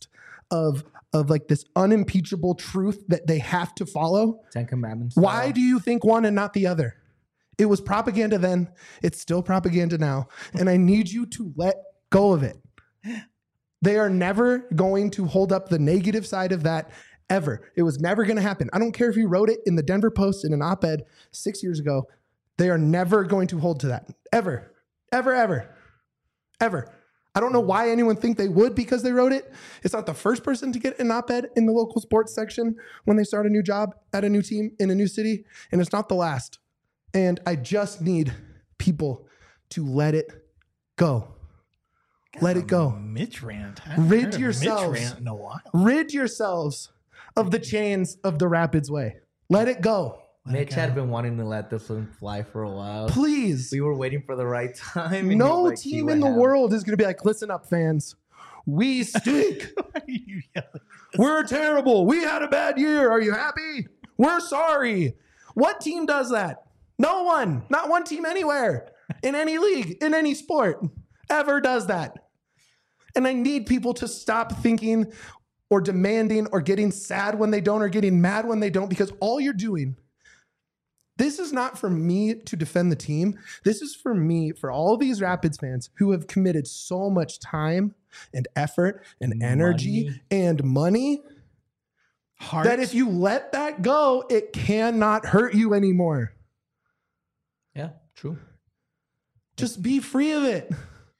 S1: of like this unimpeachable truth that they have to follow.
S3: 10 Commandments.
S1: Why do you think one and not the other? It was propaganda then. It's still propaganda now. And I need you to let go of it. They are never going to hold up the negative side of that ever. It was never going to happen. I don't care if you wrote it in the Denver Post in an op-ed 6 years ago. They are never going to hold to that. Ever. Ever, ever. Ever. I don't know why anyone think they would because they wrote it. It's not the first person to get an op-ed in the local sports section when they start a new job at a new team in a new city. And it's not the last. And I just need people to let it go. Let it go.
S2: Mitch rant.
S1: Rid yourselves.
S2: Mitch rant in a while.
S1: Rid yourselves of the chains of the Rapids way. Let it go.
S3: Mitch had been wanting to let this one fly for a while.
S1: Please.
S3: We were waiting for the right time. and
S1: No
S3: like,
S1: team in the world is going to be like, listen up, fans. We stink.
S2: Why are you yelling?
S1: We're terrible. We had a bad year. Are you happy? We're sorry. What team does that? No one. Not one team anywhere. In any league, in any sport, ever does that. And I need people to stop thinking or demanding or getting sad when they don't or getting mad when they don't, because all you're doing, this is not for me to defend the team. This is for me, for all these Rapids fans who have committed so much time and effort and energy and money
S2: Heart.
S1: that if you let that go, it cannot hurt you anymore.
S3: Yeah, true.
S1: Just be free of it.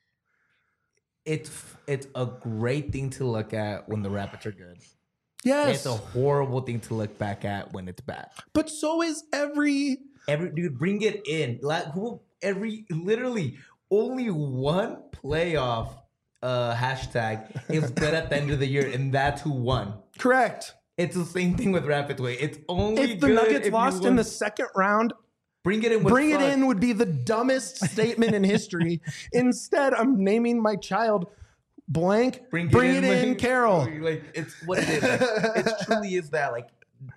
S3: It's a great thing to look at when the Rapids are good.
S1: Yes.
S3: It's a horrible thing to look back at when it's bad.
S1: But so is every
S3: Dude, bring it in. Like literally only one playoff hashtag is good at the end of the year, and that's who won.
S1: correct.
S3: It's the same thing with Rapids way. It's only
S1: If the
S3: good
S1: Nuggets
S3: if
S1: lost
S3: you
S1: in
S3: win.
S1: the second round,
S3: Bring it in. With
S1: bring it
S3: fun.
S1: in would be the dumbest statement in history. Instead, I'm naming my child blank. Bring it in,
S3: like,
S1: Carol.
S3: Like it's what it is. Like, it truly is that. Like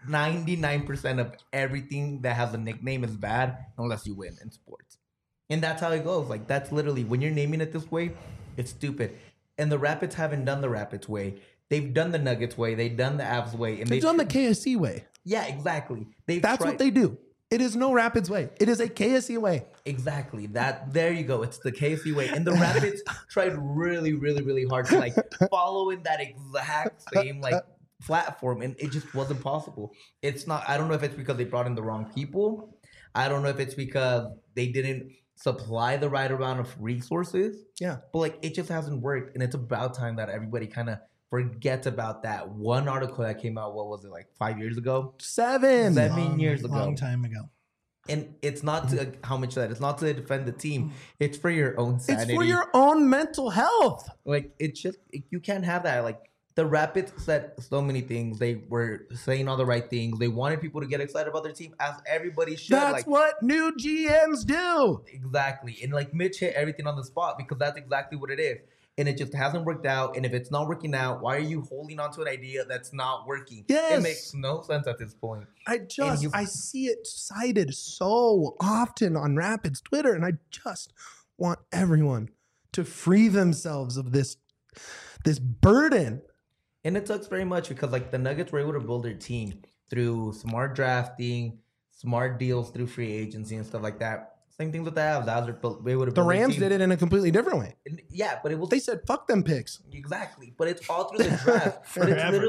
S3: 99% of everything that has a nickname is bad unless you win in sports, and that's how it goes. Like that's literally when you're naming it this way, it's stupid. And the Rapids haven't done the Rapids way. They've done the Nuggets way. They've done the Avs way, and
S1: They've done the KSC way.
S3: Yeah, exactly.
S1: That's what they do. It is no Rapids way. It is a KSC way.
S3: Exactly. There you go. It's the KC way. And the Rapids tried really, really, really hard to like follow in that exact same like platform, and it just wasn't possible. It's not. I don't know if it's because they brought in the wrong people. I don't know if it's because they didn't supply the right amount of resources.
S1: Yeah.
S3: But like it just hasn't worked, and it's about time that everybody kind of forgets about that one article that came out. What was it, like 5 years ago?
S1: 7
S3: years ago.
S2: Long time ago.
S3: And it's not to how much that it's not to defend the team. It's for your own sanity.
S1: It's for your own mental health.
S3: Like it's just you can't have that. Like the Rapids said so many things. They were saying all the right things. They wanted people to get excited about their team, as everybody should.
S1: That's
S3: like,
S1: what new GMs do.
S3: exactly. And like Mitch hit everything on the spot because that's exactly what it is. And it just hasn't worked out. And if it's not working out, why are you holding on to an idea that's not working?
S1: Yes.
S3: It makes no sense at this point.
S1: I see it cited so often on Rapids Twitter, and I just want everyone to free themselves of this burden.
S3: And it sucks very much because like the Nuggets were able to build their team through smart drafting, smart deals through free agency and stuff like that. Same thing with the Avs.
S1: The Rams did it in a completely different way.
S3: Yeah, but it was
S1: They said, fuck them picks.
S3: exactly. But it's all through the draft. But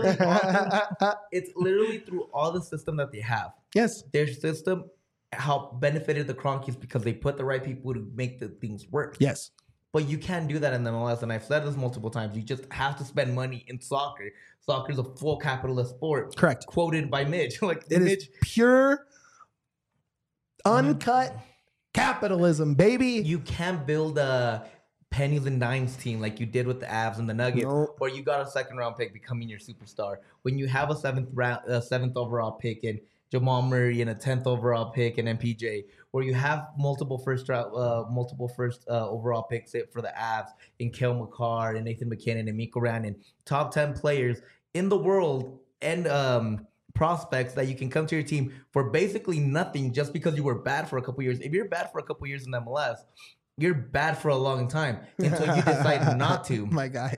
S3: it's literally through all the system that they have.
S1: Yes.
S3: Their system how benefited the Cronkies because they put the right people to make the things work.
S1: Yes.
S3: But you can't do that in the MLS, and I've said this multiple times. You just have to spend money in soccer. Soccer is a full capitalist sport.
S1: Correct.
S3: Quoted by Mitch. Like
S1: It
S3: Mitch,
S1: is pure, uncut capitalism, baby.
S3: you can't build a pennies and dimes team like you did with the Avs and the Nuggets,
S1: Nope.
S3: or you got a second round pick becoming your superstar. When you have a seventh overall pick in Jamal Murray and a 10th overall pick in MPJ, or you have multiple first overall picks for the Avs in Cale Makar and Nathan McKinnon and Mikko Rantanen, top 10 players in the world and prospects that you can come to your team for basically nothing just because you were bad for a couple years. If you're bad for a couple years in MLS, you're bad for a long time until you decide not to.
S1: My guy.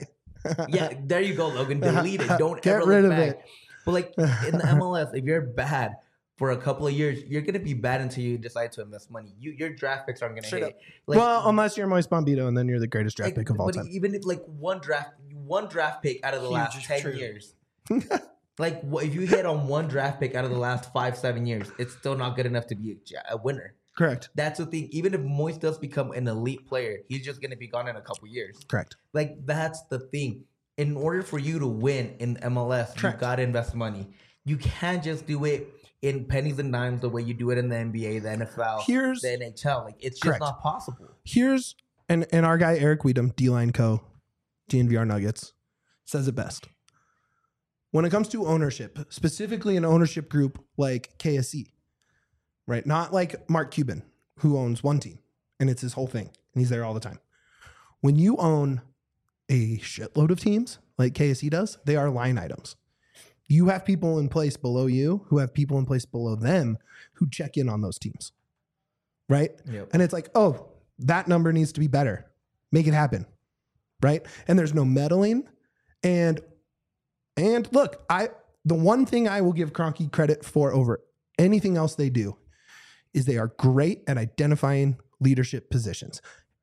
S3: Yeah, there you go, Logan. Delete it. Don't
S1: Get
S3: ever
S1: rid
S3: look
S1: of
S3: back.
S1: it.
S3: But like in the MLS, if you're bad for a couple of years, you're gonna be bad until you decide to invest money. Your draft picks aren't gonna
S1: Straight
S3: hit.
S1: up.
S3: Like,
S1: Well, unless you're Moise Bombito, and then you're the greatest draft pick of all
S3: but
S1: time.
S3: even if like one draft pick out of the
S2: Huge
S3: last
S2: is
S3: 10
S2: true.
S3: years, like if you hit on one draft pick out of the last 5-7 years, it's still not good enough to be a winner.
S1: Correct.
S3: That's the thing. Even if Moise does become an elite player, he's just gonna be gone in a couple years.
S1: Correct.
S3: Like that's the thing. In order for you to win in MLS, you
S1: Correct.
S3: gotta invest money. You can't just do it in pennies and dimes the way you do it in the NBA, the NFL,
S1: Here's-
S3: the NHL. Like it's just
S1: Correct.
S3: not possible.
S1: Here's and our guy Eric Weedham, D-Line Co, DNVR Nuggets, says it best. When it comes to ownership, specifically an ownership group like KSE, right? Not like Mark Cuban, who owns one team and it's his whole thing and he's there all the time. When you own a shitload of teams like KSE does, they are line items. You have people in place below you who have people in place below them who check in on those teams, right?
S3: Yep.
S1: And it's like, oh, that number needs to be better. Make it happen, right? And there's no meddling. And look, the one thing I will give Kroenke credit for over anything else they do is they are great at identifying leadership positions.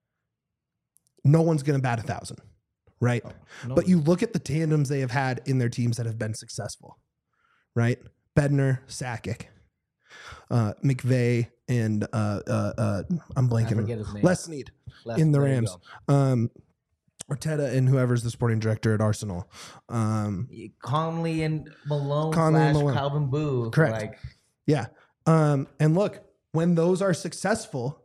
S1: No one's going to bat 1,000, right? But you look at the tandems they have had in their teams that have been successful, right? Bednar, Sakic, McVay, and I'm blanking.
S3: forget his name.
S1: Les Snead in the
S3: there you
S1: Rams.
S3: go.
S1: Arteta and whoever's the sporting director at Arsenal.
S3: Conley and Malone
S1: Conley and
S3: /
S1: Malone.
S3: Calvin Booth.
S1: Correct.
S3: Like,
S1: Yeah. And look, when those are successful,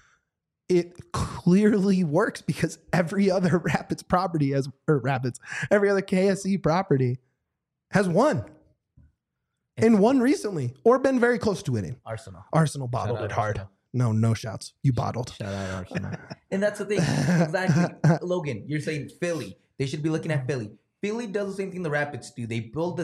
S1: it clearly works because every other Rapids property every other KSE property has won. And won recently or been very close to winning.
S3: Arsenal.
S1: Arsenal bottled
S3: Shout out
S1: it hard.
S3: Arsenal.
S1: No shouts. You bottled.
S3: Shout out Arsenal. And that's the thing. Exactly. Logan, you're saying Philly. They should be looking at Philly. Philly does the same thing the Rapids do. They build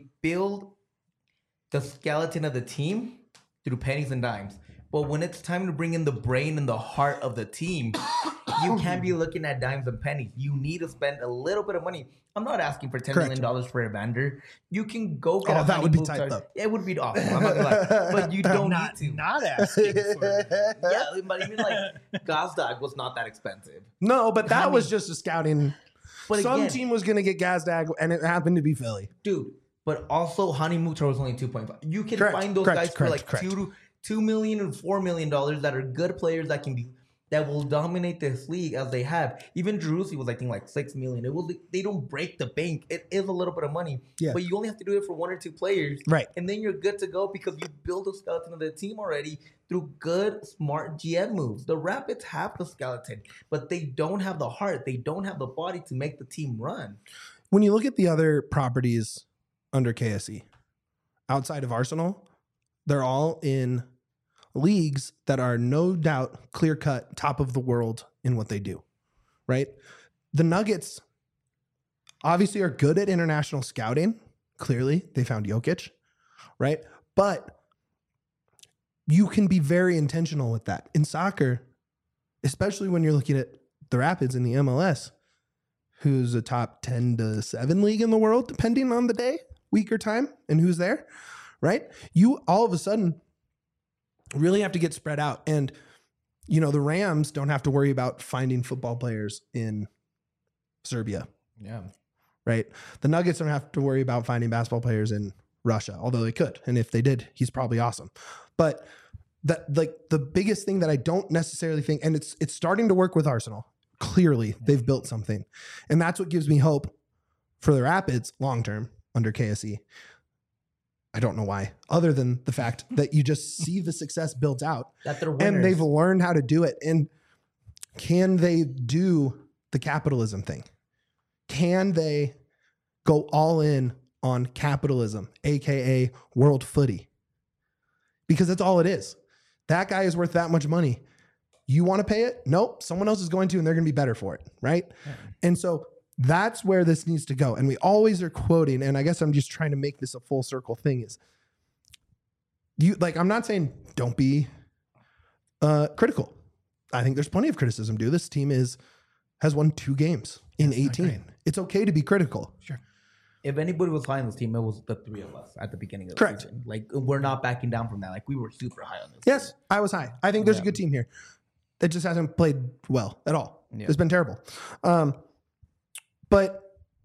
S3: the skeleton of the team through pennies and dimes. But when it's time to bring in the brain and the heart of the team, you can't be looking at dimes and pennies. You need to spend a little bit of money. I'm not asking for $10 million for Evander. You can go get
S1: Oh, that would be tight, though.
S3: It would be awesome. I'm not gonna lie. But you don't need to.
S2: Not asking for it.
S3: Yeah, but even like Gazdag was not that expensive.
S1: No, but that was just a scouting.
S3: But
S1: Some
S3: again,
S1: team was going to get Gazdag, and it happened to be Philly.
S3: dude. But also, Hani Mukhtar was only 2.5. You can
S1: Correct,
S3: find those
S1: correct,
S3: guys for
S1: correct,
S3: like
S1: correct.
S3: $2 million and $4 million that are good players that will dominate this league as they have. Even Jerusi was, I think, like $6 million. They don't break the bank. It is a little bit of money,
S1: Yeah.
S3: but you only have to do it for 1 or 2 players,
S1: Right.
S3: and then you're good to go because you build a skeleton of the team already through good, smart GM moves. The Rapids have the skeleton, but they don't have the heart. They don't have the body to make the team run.
S1: When you look at the other properties under KSE, outside of Arsenal, they're all in leagues that are no doubt clear-cut top of the world in what they do, right? The Nuggets obviously are good at international scouting. Clearly, they found Jokic, right? But you can be very intentional with that. In soccer, especially when you're looking at the Rapids in the MLS, who's a top 10 to 7 league in the world, depending on the day, week, or time, and who's there, right? You all of a sudden really have to get spread out. And, you know, the Rams don't have to worry about finding football players in Serbia,
S3: Yeah.
S1: right? The Nuggets don't have to worry about finding basketball players in Russia, although they could. And if they did, he's probably awesome. But that, like, the biggest thing that I don't necessarily think, and it's starting to work with Arsenal. Clearly, they've built something. And that's what gives me hope for the Rapids long-term under KSE. I don't know why, other than the fact that you just see the success built out
S3: That they're winners.
S1: and they've learned how to do it. And can they do the capitalism thing? Can they go all in on capitalism, AKA world footy? Because that's all it is. That guy is worth that much money. You want to pay it? Nope. Someone else is going to, and they're going to be better for it. Right.
S3: Yeah.
S1: And so that's where this needs to go. And we always are quoting, and I guess I'm just trying to make this a full circle thing, is you, like, I'm not saying don't be critical. I think there's plenty of criticism, dude. This team is has won 2 games in
S2: That's not
S1: 18.
S2: great.
S1: It's okay to be critical.
S2: Sure.
S3: If anybody was high on this team, it was the 3 of us at the beginning of the
S1: Correct.
S3: season. Like, we're not backing down from that. Like, we were super high on this.
S1: Yes, I was high. I think there's a
S3: Yeah.
S1: good team here. It just hasn't played well at all.
S3: Yeah.
S1: It's been terrible. But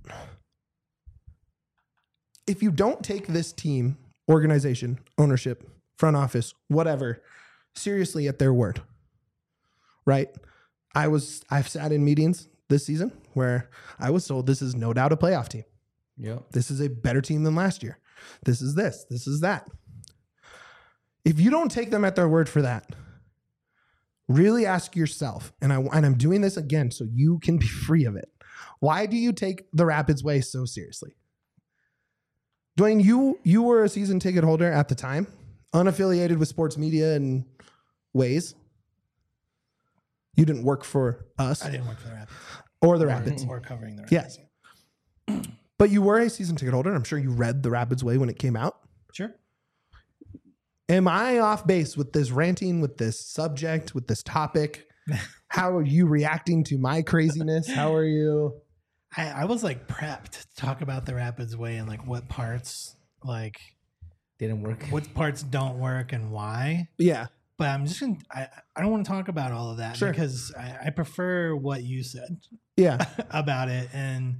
S1: if you don't take this team, organization, ownership, front office, whatever, seriously at their word, right? I've sat in meetings this season where I was told this is no doubt a playoff team.
S3: Yeah.
S1: This is a better team than last year. This is this. This is that. If you don't take them at their word for that, really ask yourself, and I'm doing this again so you can be free of it. Why do you take the Rapids way so seriously? Dwayne, you were a season ticket holder at the time, unaffiliated with sports media and ways. You didn't work for us
S2: I didn't work for the Rapids.
S1: or the Rapids.
S2: Or covering the Rapids.
S1: Yes. But you were a season ticket holder. I'm sure you read the Rapids way when it came out.
S2: Sure.
S1: Am I off base with this ranting, with this subject, with this topic? How are you reacting to my craziness? How are you?
S2: I was like prepped to talk about the Rapids way and like what parts like
S3: Didn't work.
S2: what parts don't work and why.
S1: Yeah.
S2: But I'm just gonna I don't want to talk about all of that
S1: Sure.
S2: because I prefer what you said
S1: Yeah.
S2: about it. And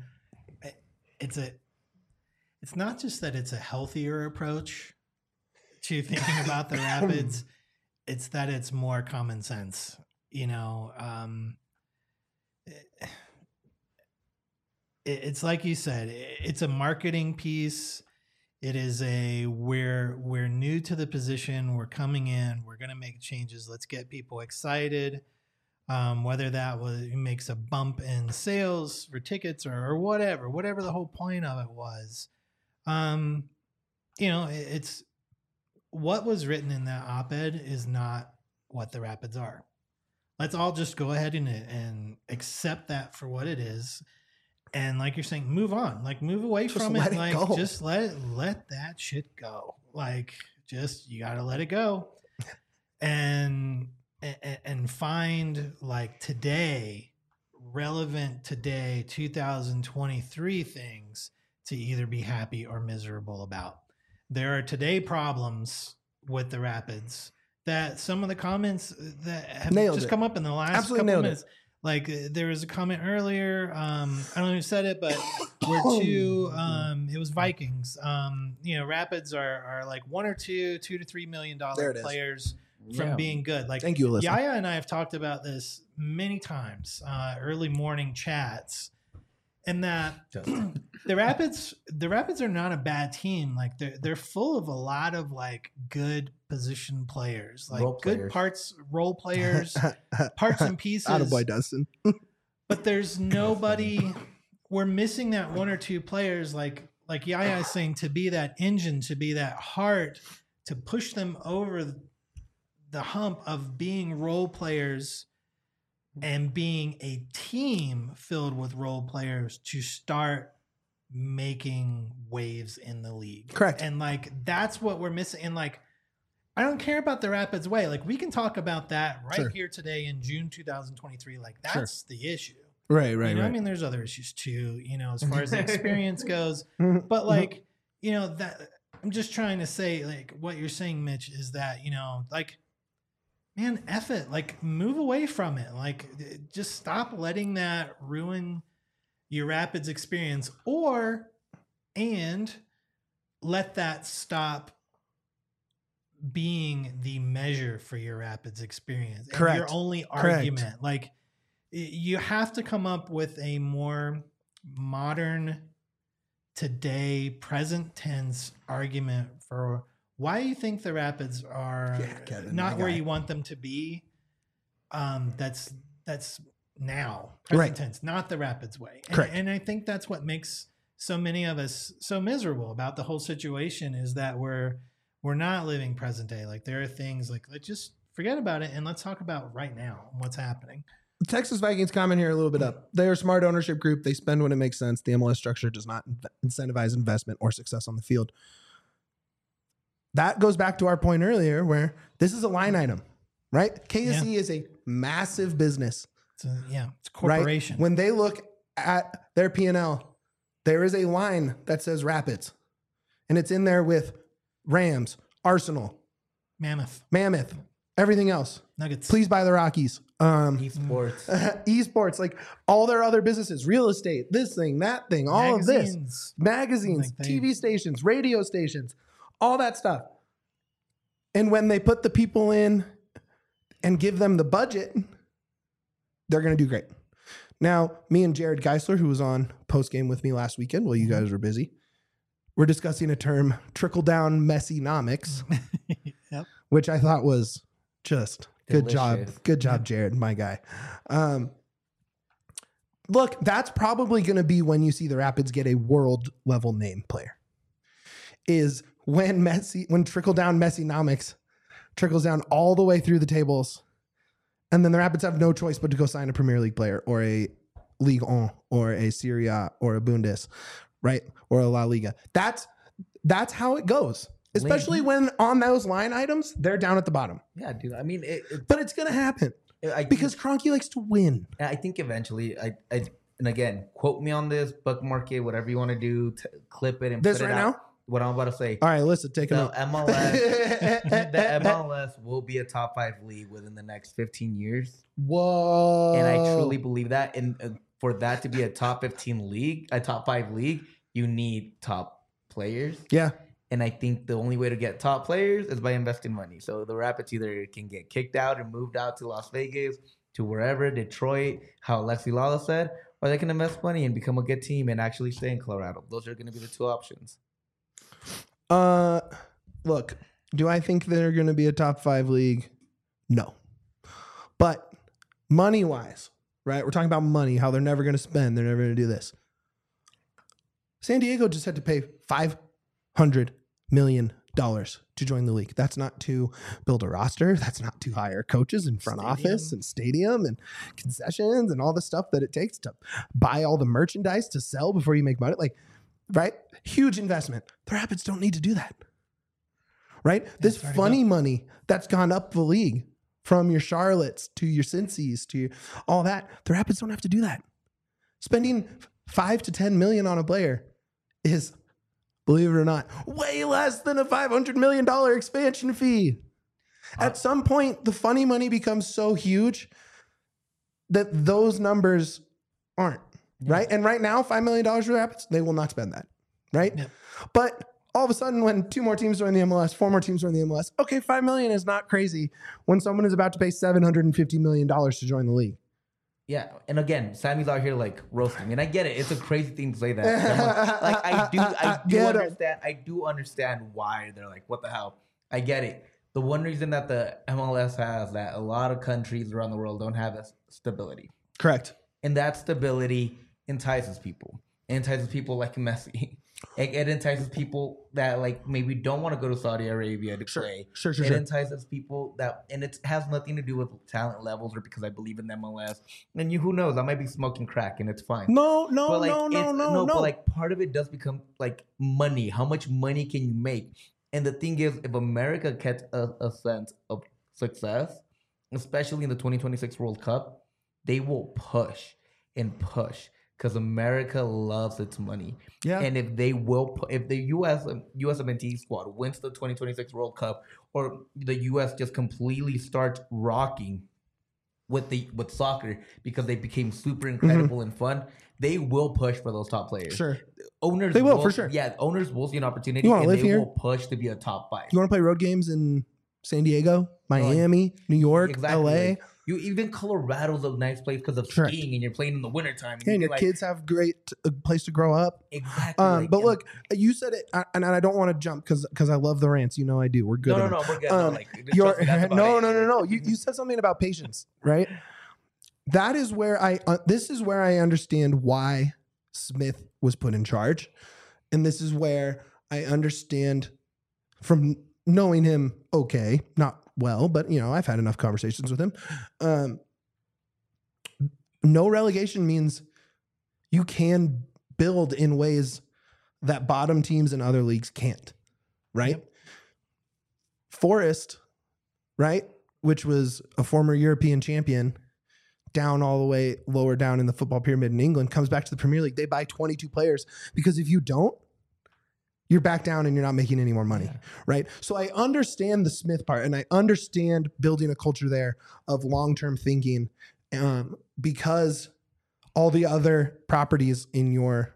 S2: it's not just that it's a healthier approach to thinking about the Rapids, it's that it's more common sense, you know. It's like you said, it's a marketing piece. It is we're new to the position, we're coming in, we're going to make changes, let's get people excited. Whether that makes a bump in sales for tickets or whatever the whole point of it was. You know, it's what was written in that op-ed is not what the Rapids are. Let's all just go ahead and accept that for what it is. And like you're saying, move on, like move away
S1: Just
S2: from
S1: let
S2: it.
S1: it
S2: Like
S1: go.
S2: just let that shit go. Like just, you got to let it go and find like today, relevant today, 2023 things to either be happy or miserable about. There are today problems with the Rapids that some of the comments that have
S1: Nailed
S2: just
S1: it.
S2: come up in the last
S1: Absolutely
S2: couple
S1: nailed it.
S2: minutes. Like there was a comment earlier. I don't know who said it, but we're two. It was Vikings. You know, Rapids are like $1 or $2 to $3 million
S1: There it is.
S2: players from
S3: Yeah.
S2: being good. Like
S1: Thank you, Alyssa.
S2: Yaya and I have talked about this many times, early morning chats, and that the Rapids are not a bad team. Like they're full of a lot of like good position players, like
S3: Role
S2: good
S3: players.
S2: parts, role players, parts and pieces.
S1: Attaboy, Dustin.
S2: But there's nobody. We're missing that 1 or 2 players, like Yaya is saying, to be that engine, to be that heart, to push them over the hump of being role players and being a team filled with role players to start making waves in the league.
S1: Correct.
S2: And like that's what we're missing. And like I don't care about the Rapids way. Like we can talk about that right
S1: Sure.
S2: here today in June 2023. Like that's the issue.
S1: Right,
S2: You know, I mean, there's other issues too, you know, as far as the experience goes. But like, you know, that I'm just trying to say, like, what you're saying, Mitch, is that, you know, like, man, F it. Like, move away from it. Like, just stop letting that ruin your Rapids experience, and let that stop being the measure for your Rapids experience. And
S1: Correct.
S2: your only
S1: Correct.
S2: argument. Like, you have to come up with a more modern, today, present tense argument for why you think the Rapids are
S1: Yeah, Kevin,
S2: not
S1: my
S2: where
S1: guy.
S2: you want them to be. That's now, present
S1: Right.
S2: tense, not the Rapids way.
S1: Correct.
S2: And I think that's what makes so many of us so miserable about the whole situation, is that we're not living present day. Like there are things like, let's just forget about it and let's talk about right now and what's happening.
S1: The Texas Vikings comment here a little bit up. They are a smart ownership group. They spend when it makes sense. The MLS structure does not incentivize investment or success on the field. That goes back to our point earlier where this is a line item, right? KSE is a massive business.
S2: It's a
S1: right?
S2: corporation.
S1: When they look at their P&L, there is a line that says Rapids, and it's in there with Rams, Arsenal,
S2: Mammoth,
S1: everything else.
S2: Nuggets.
S1: Please buy the Rockies.
S3: Esports.
S1: Esports, like all their other businesses, real estate, this thing, that thing, all of this. Magazines,
S2: Like
S1: TV stations, radio stations, all that stuff. And when they put the people in and give them the budget, they're going to do great. Now, me and Jared Geisler, who was on postgame with me last weekend while you guys were busy, we're discussing a term, trickle-down Messi-nomics,
S2: Yep.
S1: which I thought was just good job.
S3: Delicious.
S1: Good job, Jared, my guy. Look, that's probably going to be when you see the Rapids get a world-level name player. Is when trickle-down Messi-nomics trickles down all the way through the tables, and then the Rapids have no choice but to go sign a Premier League player or a Ligue 1 or a Serie A or a Bundes, right? Or a La Liga. That's how it goes. Especially when on those line items, they're down at the bottom.
S3: Yeah, dude. I mean,
S1: But it's going to happen because Kroenke likes to win.
S3: I think eventually, and again, quote me on this, bookmark it, whatever you want to do, clip it and
S1: This
S3: put it
S1: right
S3: out.
S1: now?
S3: What I'm about to say.
S1: All right, listen, take a
S3: The
S1: note.
S3: the MLS will be a top 5 league within the next 15 years.
S1: Whoa.
S3: And I truly believe that. And for that to be a top 15 league, a top 5 league, you need top players.
S1: Yeah.
S3: And I think the only way to get top players is by investing money. So the Rapids either can get kicked out and moved out to Las Vegas, to wherever, Detroit, how Alexi Lala said, or they can invest money and become a good team and actually stay in Colorado. Those are going to be the two options.
S1: Look, do I think they're going to be a top 5 league? No. But money-wise, right? We're talking about money, how they're never going to spend. They're never going to do this. San Diego just had to pay $500 million to join the league. That's not to build a roster. That's not to hire coaches and front office and stadium and concessions and all the stuff that it takes to buy all the merchandise to sell before you make money. Like, right? Huge investment. The Rapids don't need to do that. Right? This funny money that's gone up the league from your Charlottes to your Cincy's to all that. The Rapids don't have to do that. Spending $5 to $10 million on a player is, believe it or not, way less than a $500 million expansion fee. At some point, the funny money becomes so huge that those numbers aren't, right? And right now, $5 million for the Rapids, they will not spend that, right?
S2: Yep.
S1: But all of a sudden, when 2 more teams join the MLS, 4 more teams join the MLS, okay, $5 million is not crazy when someone is about to pay $750 million to join the league.
S3: Yeah, and again, Sammy's out here like roasting, and I get it. It's a crazy thing to say that. Like I do understand why they're like, what the hell? I get it. The one reason that the MLS has that a lot of countries around the world don't have is stability.
S1: Correct.
S3: And that stability entices people. It entices people like Messi. It entices people that like maybe don't want to go to Saudi Arabia to play.
S1: Sure.
S3: It entices people that, and it has nothing to do with talent levels or because I believe in the MLS. And who knows? I might be smoking crack and it's fine.
S1: No.
S3: But like part of it does become like money. How much money can you make? And the thing is, if America gets a sense of success, especially in the 2026 World Cup, they will push and push. Because America loves its money. Yeah. And if the USMNT squad wins the 2026 World Cup, or the US just completely starts rocking with soccer because they became super incredible and fun, they will push for those top players.
S1: Sure.
S3: Owners
S1: they will for sure.
S3: Yeah, owners will see an opportunity
S1: and
S3: they
S1: here?
S3: will push to be a top 5.
S1: You want to play road games in San Diego, Miami, New York, LA?
S3: Like, even Colorado's a nice place because of skiing, and you're playing in the wintertime.
S1: And your kids have great place to grow up.
S3: Exactly.
S1: But look, you said it, and I don't want to jump because I love the rants. You know I do. We're good.
S3: No, we're good.
S1: No. You said something about patience, right? That is where this is where I understand why Smith was put in charge, and this is where I understand from knowing him. Okay, not well, but I've had enough conversations with him. No relegation means you can build in ways that bottom teams in other leagues can't, right? Yep. Forest, right, which was a former European champion, down all the way lower down in the football pyramid in England, comes back to the Premier League. They buy 22 players because if you don't, you're back down and you're not making any more money, right? So I understand the Smith part, and I understand building a culture there of long-term thinking, because all the other properties in your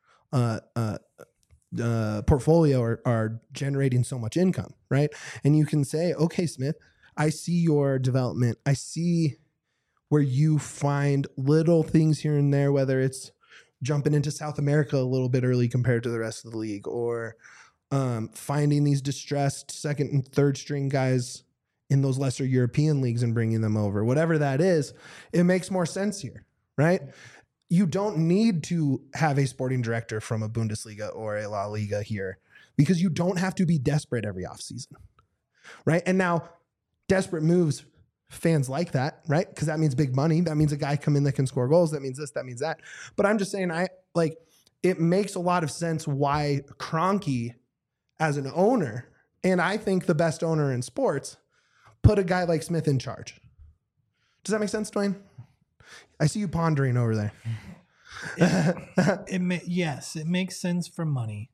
S1: portfolio are generating so much income, right? And you can say, okay, Smith, I see your development. I see where you find little things here and there, whether it's jumping into South America a little bit early compared to the rest of the league, or finding these distressed second and third string guys in those lesser European leagues and bringing them over. Whatever that is, it makes more sense here, right? You don't need to have a sporting director from a Bundesliga or a La Liga here, because you don't have to be desperate every offseason, right? And now desperate moves, fans like that, right? Because that means big money. That means a guy come in that can score goals. That means this, that means that. But I'm just saying, it makes a lot of sense why Kroenke, as an owner, and I think the best owner in sports, put a guy like Smith in charge. Does that make sense, Dwayne? I see you pondering over there.
S2: Yes, it makes sense for money.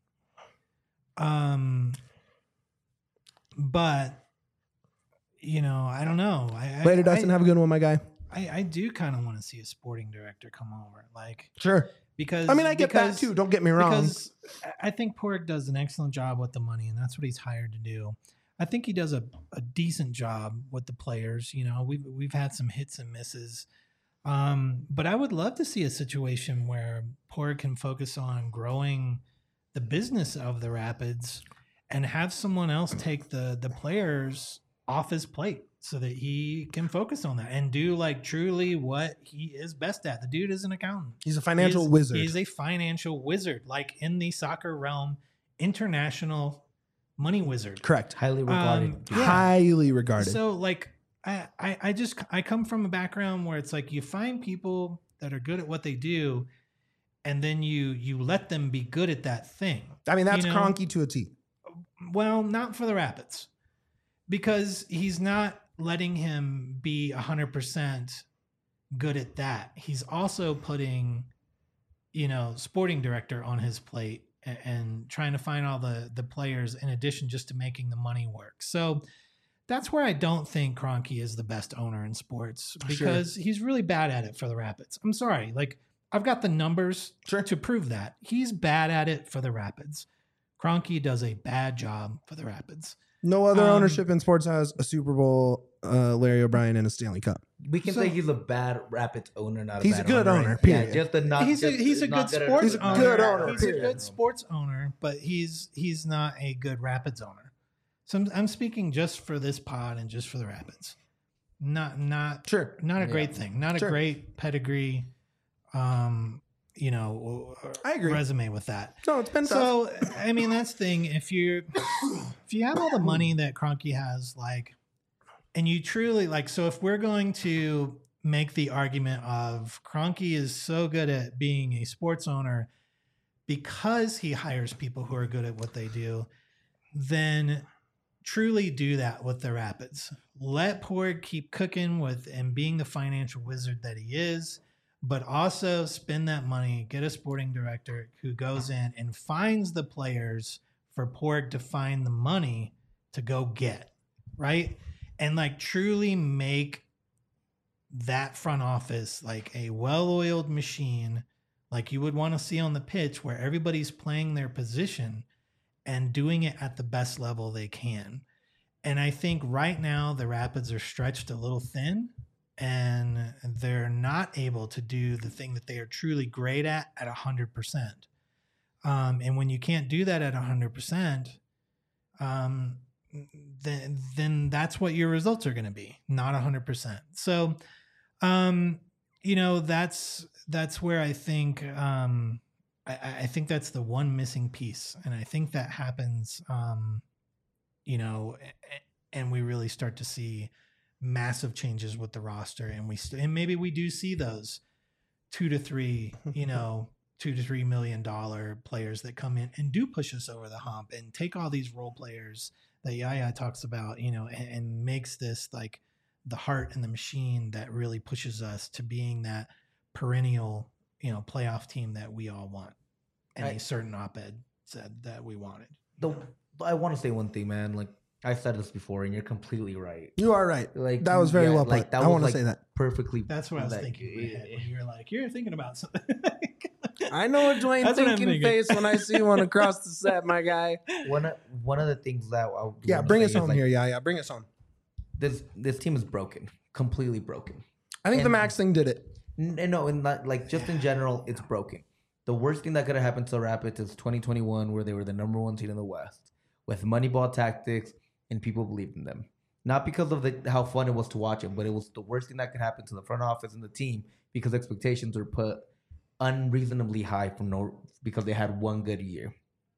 S2: But I don't know.
S1: Later, Dustin, have a good one, my guy.
S2: I do kind of want to see a sporting director come over,
S1: sure.
S2: Because
S1: I get that too. Don't get me wrong. Because
S2: I think Porig does an excellent job with the money, and that's what he's hired to do. I think he does a decent job with the players. We've had some hits and misses. But I would love to see a situation where Porig can focus on growing the business of the Rapids and have someone else take the players off his plate so that he can focus on that and do truly what he is best at. The dude is an accountant.
S1: He's a financial wizard.
S2: He's a financial wizard, in the soccer realm, international money wizard.
S1: Correct.
S3: Highly regarded.
S1: Highly regarded.
S2: So I come from a background where it's you find people that are good at what they do, and then you let them be good at that thing.
S1: That's Kroenke to a T.
S2: Well, not for the Rapids, because he's not letting him be 100% good at that. He's also putting, sporting director on his plate and trying to find all the players in addition just to making the money work. So that's where I don't think Kroenke is the best owner in sports, because he's really bad at it for the Rapids. I'm sorry. I've got the numbers to prove that. He's bad at it for the Rapids. Kroenke does a bad job for the Rapids.
S1: No other ownership in sports has a Super Bowl, Larry O'Brien, and a Stanley Cup.
S3: We can say he's a bad Rapids owner, not a
S1: he's
S3: bad
S1: a good owner.
S3: Yeah, just a not.
S2: He's a good sports owner.
S1: Good owner.
S2: He's a good sports owner, but he's not a good Rapids owner. So I'm speaking just for this pod and just for the Rapids. Not a great thing. Not a great pedigree. I agree. Resume with that.
S1: No, it's been
S2: so. That's the thing. If you have all the money that Kroenke has, and you truly so if we're going to make the argument of Kroenke is so good at being a sports owner because he hires people who are good at what they do, then truly do that with the Rapids. Let Porig keep cooking with and being the financial wizard that he is, but also spend that money, get a sporting director who goes in and finds the players for Porig to find the money to go get, right? And truly make that front office a well-oiled machine you would want to see on the pitch, where everybody's playing their position and doing it at the best level they can. And I think right now the Rapids are stretched a little thin, and they're not able to do the thing that they are truly great at 100%. And when you can't do that at 100%, then that's what your results are going to be, not 100%. So, that's where I think, I think that's the one missing piece. And I think that happens, and we really start to see massive changes with the roster, and maybe we do see those $2 to $3 million players that come in and do push us over the hump and take all these role players that Yaya talks about, and makes this the heart and the machine that really pushes us to being that perennial, playoff team that we all want. And a certain op-ed said that we wanted.
S3: I want to say one thing, man. Like I said this before, and you're completely right.
S1: You are right.
S3: Like
S1: that was very well put.
S3: Like,
S1: I want to say that
S3: perfectly.
S2: That's what I was thinking in my head when you were like, you're thinking about something.
S1: I know a Dwayne thinking face when I see one across the set, my guy.
S3: One of the things that
S1: bring us home here. Yeah, bring us home.
S3: This team is broken, completely broken.
S1: I think the Max thing did it.
S3: No, and not, like just in general, it's broken. The worst thing that could have happened to the Rapids is 2021, where they were the number 1 seed in the West with Moneyball tactics and people believed in them. Not because of how fun it was to watch them, but it was the worst thing that could happen to the front office and the team because expectations were put unreasonably high because they had one good year.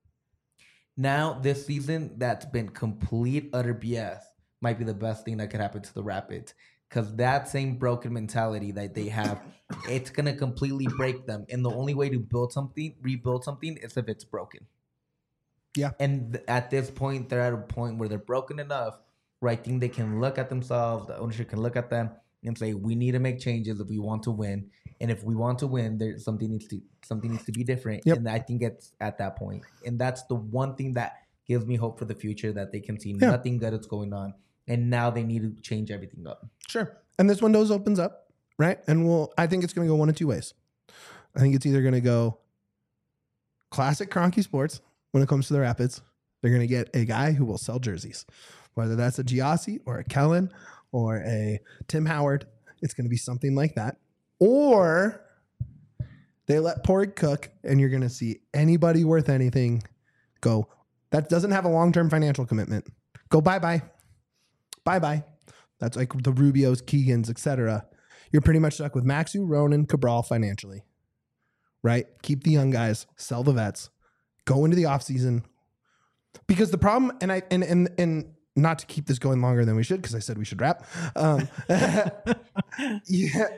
S3: Now, this season, that's been complete, utter BS, might be the best thing that could happen to the Rapids. Because that same broken mentality that they have, it's going to completely break them. And the only way to rebuild something, is if it's broken.
S1: Yeah.
S3: And at this point, they're at a point where they're broken enough where I think they can look at themselves, the ownership can look at them and say, we need to make changes if we want to win. And if we want to win, something needs to be different.
S1: Yep.
S3: And I think it's at that point. And that's the one thing that gives me hope for the future, that they can see nothing good is going on. And now they need to change everything up.
S1: Sure. And this window opens up, right? And I think it's going to go one of two ways. I think it's either going to go classic Kroenke sports when it comes to the Rapids. They're going to get a guy who will sell jerseys, whether that's a Giassi or a Kellen or a Tim Howard. It's going to be something like that. Or they let Porg cook, and you're going to see anybody worth anything go, that doesn't have a long-term financial commitment, go bye-bye. Bye-bye. That's like the Rubios, Keegans, etc. You're pretty much stuck with Maxu, Ronan, Cabral financially, right? Keep the young guys, sell the vets, go into the offseason. Because the problem, and not to keep this going longer than we should, because I said we should wrap. Yeah.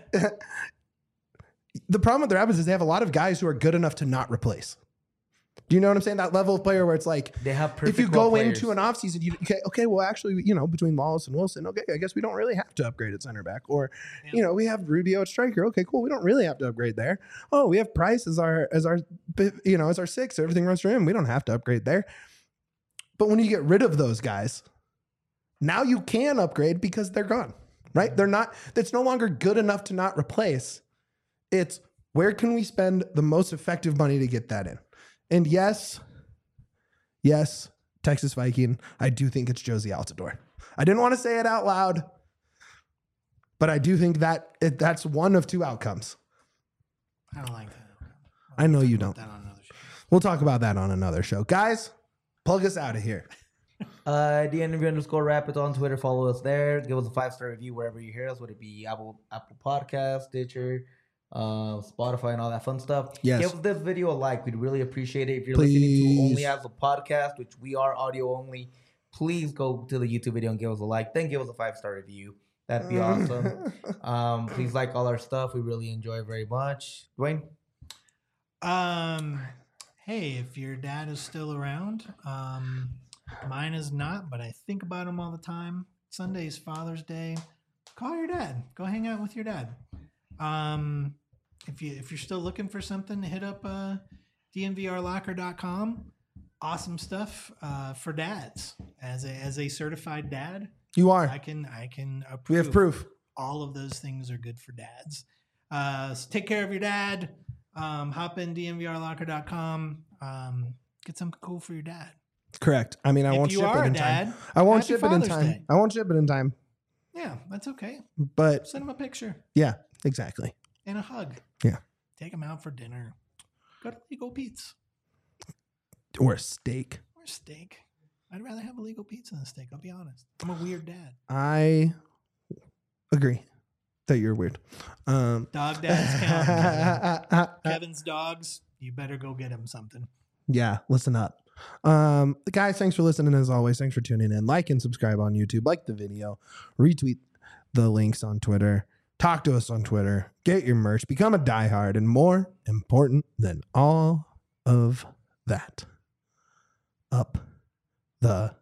S1: The problem with the Rapids is they have a lot of guys who are good enough to not replace. Do you know what I'm saying? That level of player where it's like,
S3: they have perfect
S1: if you go
S3: players.
S1: into an offseason, well, actually, between Wallace and Wilson, okay, I guess we don't really have to upgrade at center back. Or, we have Rubio at striker. Okay, cool. We don't really have to upgrade there. Oh, we have Price as our six. Everything runs for him. We don't have to upgrade there. But when you get rid of those guys, now you can upgrade because they're gone, right? They're not, that's no longer good enough to not replace. It's where can we spend the most effective money to get that in? And yes, Texas Viking, I do think it's Jozy Altidore. I didn't want to say it out loud, but I do think that that's one of two outcomes.
S2: I don't like that.
S1: I know you don't.
S2: That on another show.
S1: We'll talk about that on another show. Guys, plug us out of here.
S3: DNV_Rapids on Twitter. Follow us there. Give us a 5-star review wherever you hear us. Would it be Apple Podcast, Stitcher, Spotify, and all that fun stuff?
S1: Yes.
S3: Give this video a like. We'd really appreciate it. If you're
S1: Please.
S3: listening to only as a podcast, which we are audio only, please go to the YouTube video and give us a like. Then give us a 5-star review. That'd be awesome. Please like all our stuff. We really enjoy it very much. Dwayne?
S2: Hey, if your dad is still around, mine is not, but I think about him all the time. Sunday's Father's Day. Call your dad. Go hang out with your dad. If you're still looking for something, hit up dnvrlocker.com. Awesome stuff for dads. As a certified dad,
S1: You are.
S2: I can approve.
S1: We have proof.
S2: All of those things are good for dads. So take care of your dad. Hop in dnvrlocker.com. Get something cool for your dad.
S1: Correct. I mean, I won't ship it in time. I won't ship it in time. I won't ship it in time.
S2: Yeah, that's okay.
S1: But
S2: Send him a picture
S1: yeah, exactly.
S2: and a hug.
S1: Yeah.
S2: Take him out for dinner. Go to Legal Pete's
S1: Or a steak.
S2: or steak. I'd rather have a Legal Pizza than a steak. I'll be honest. I'm a weird dad.
S1: I agree that you're weird.
S2: Dog dads count. Kevin's dogs. You better go get him something.
S1: Yeah, listen up. Guys, thanks for listening as always. Thanks for tuning in. Like and subscribe on YouTube. Like the video. Retweet the links on Twitter. Talk to us on Twitter. Get your merch. Become a diehard. And more important than all of that, up the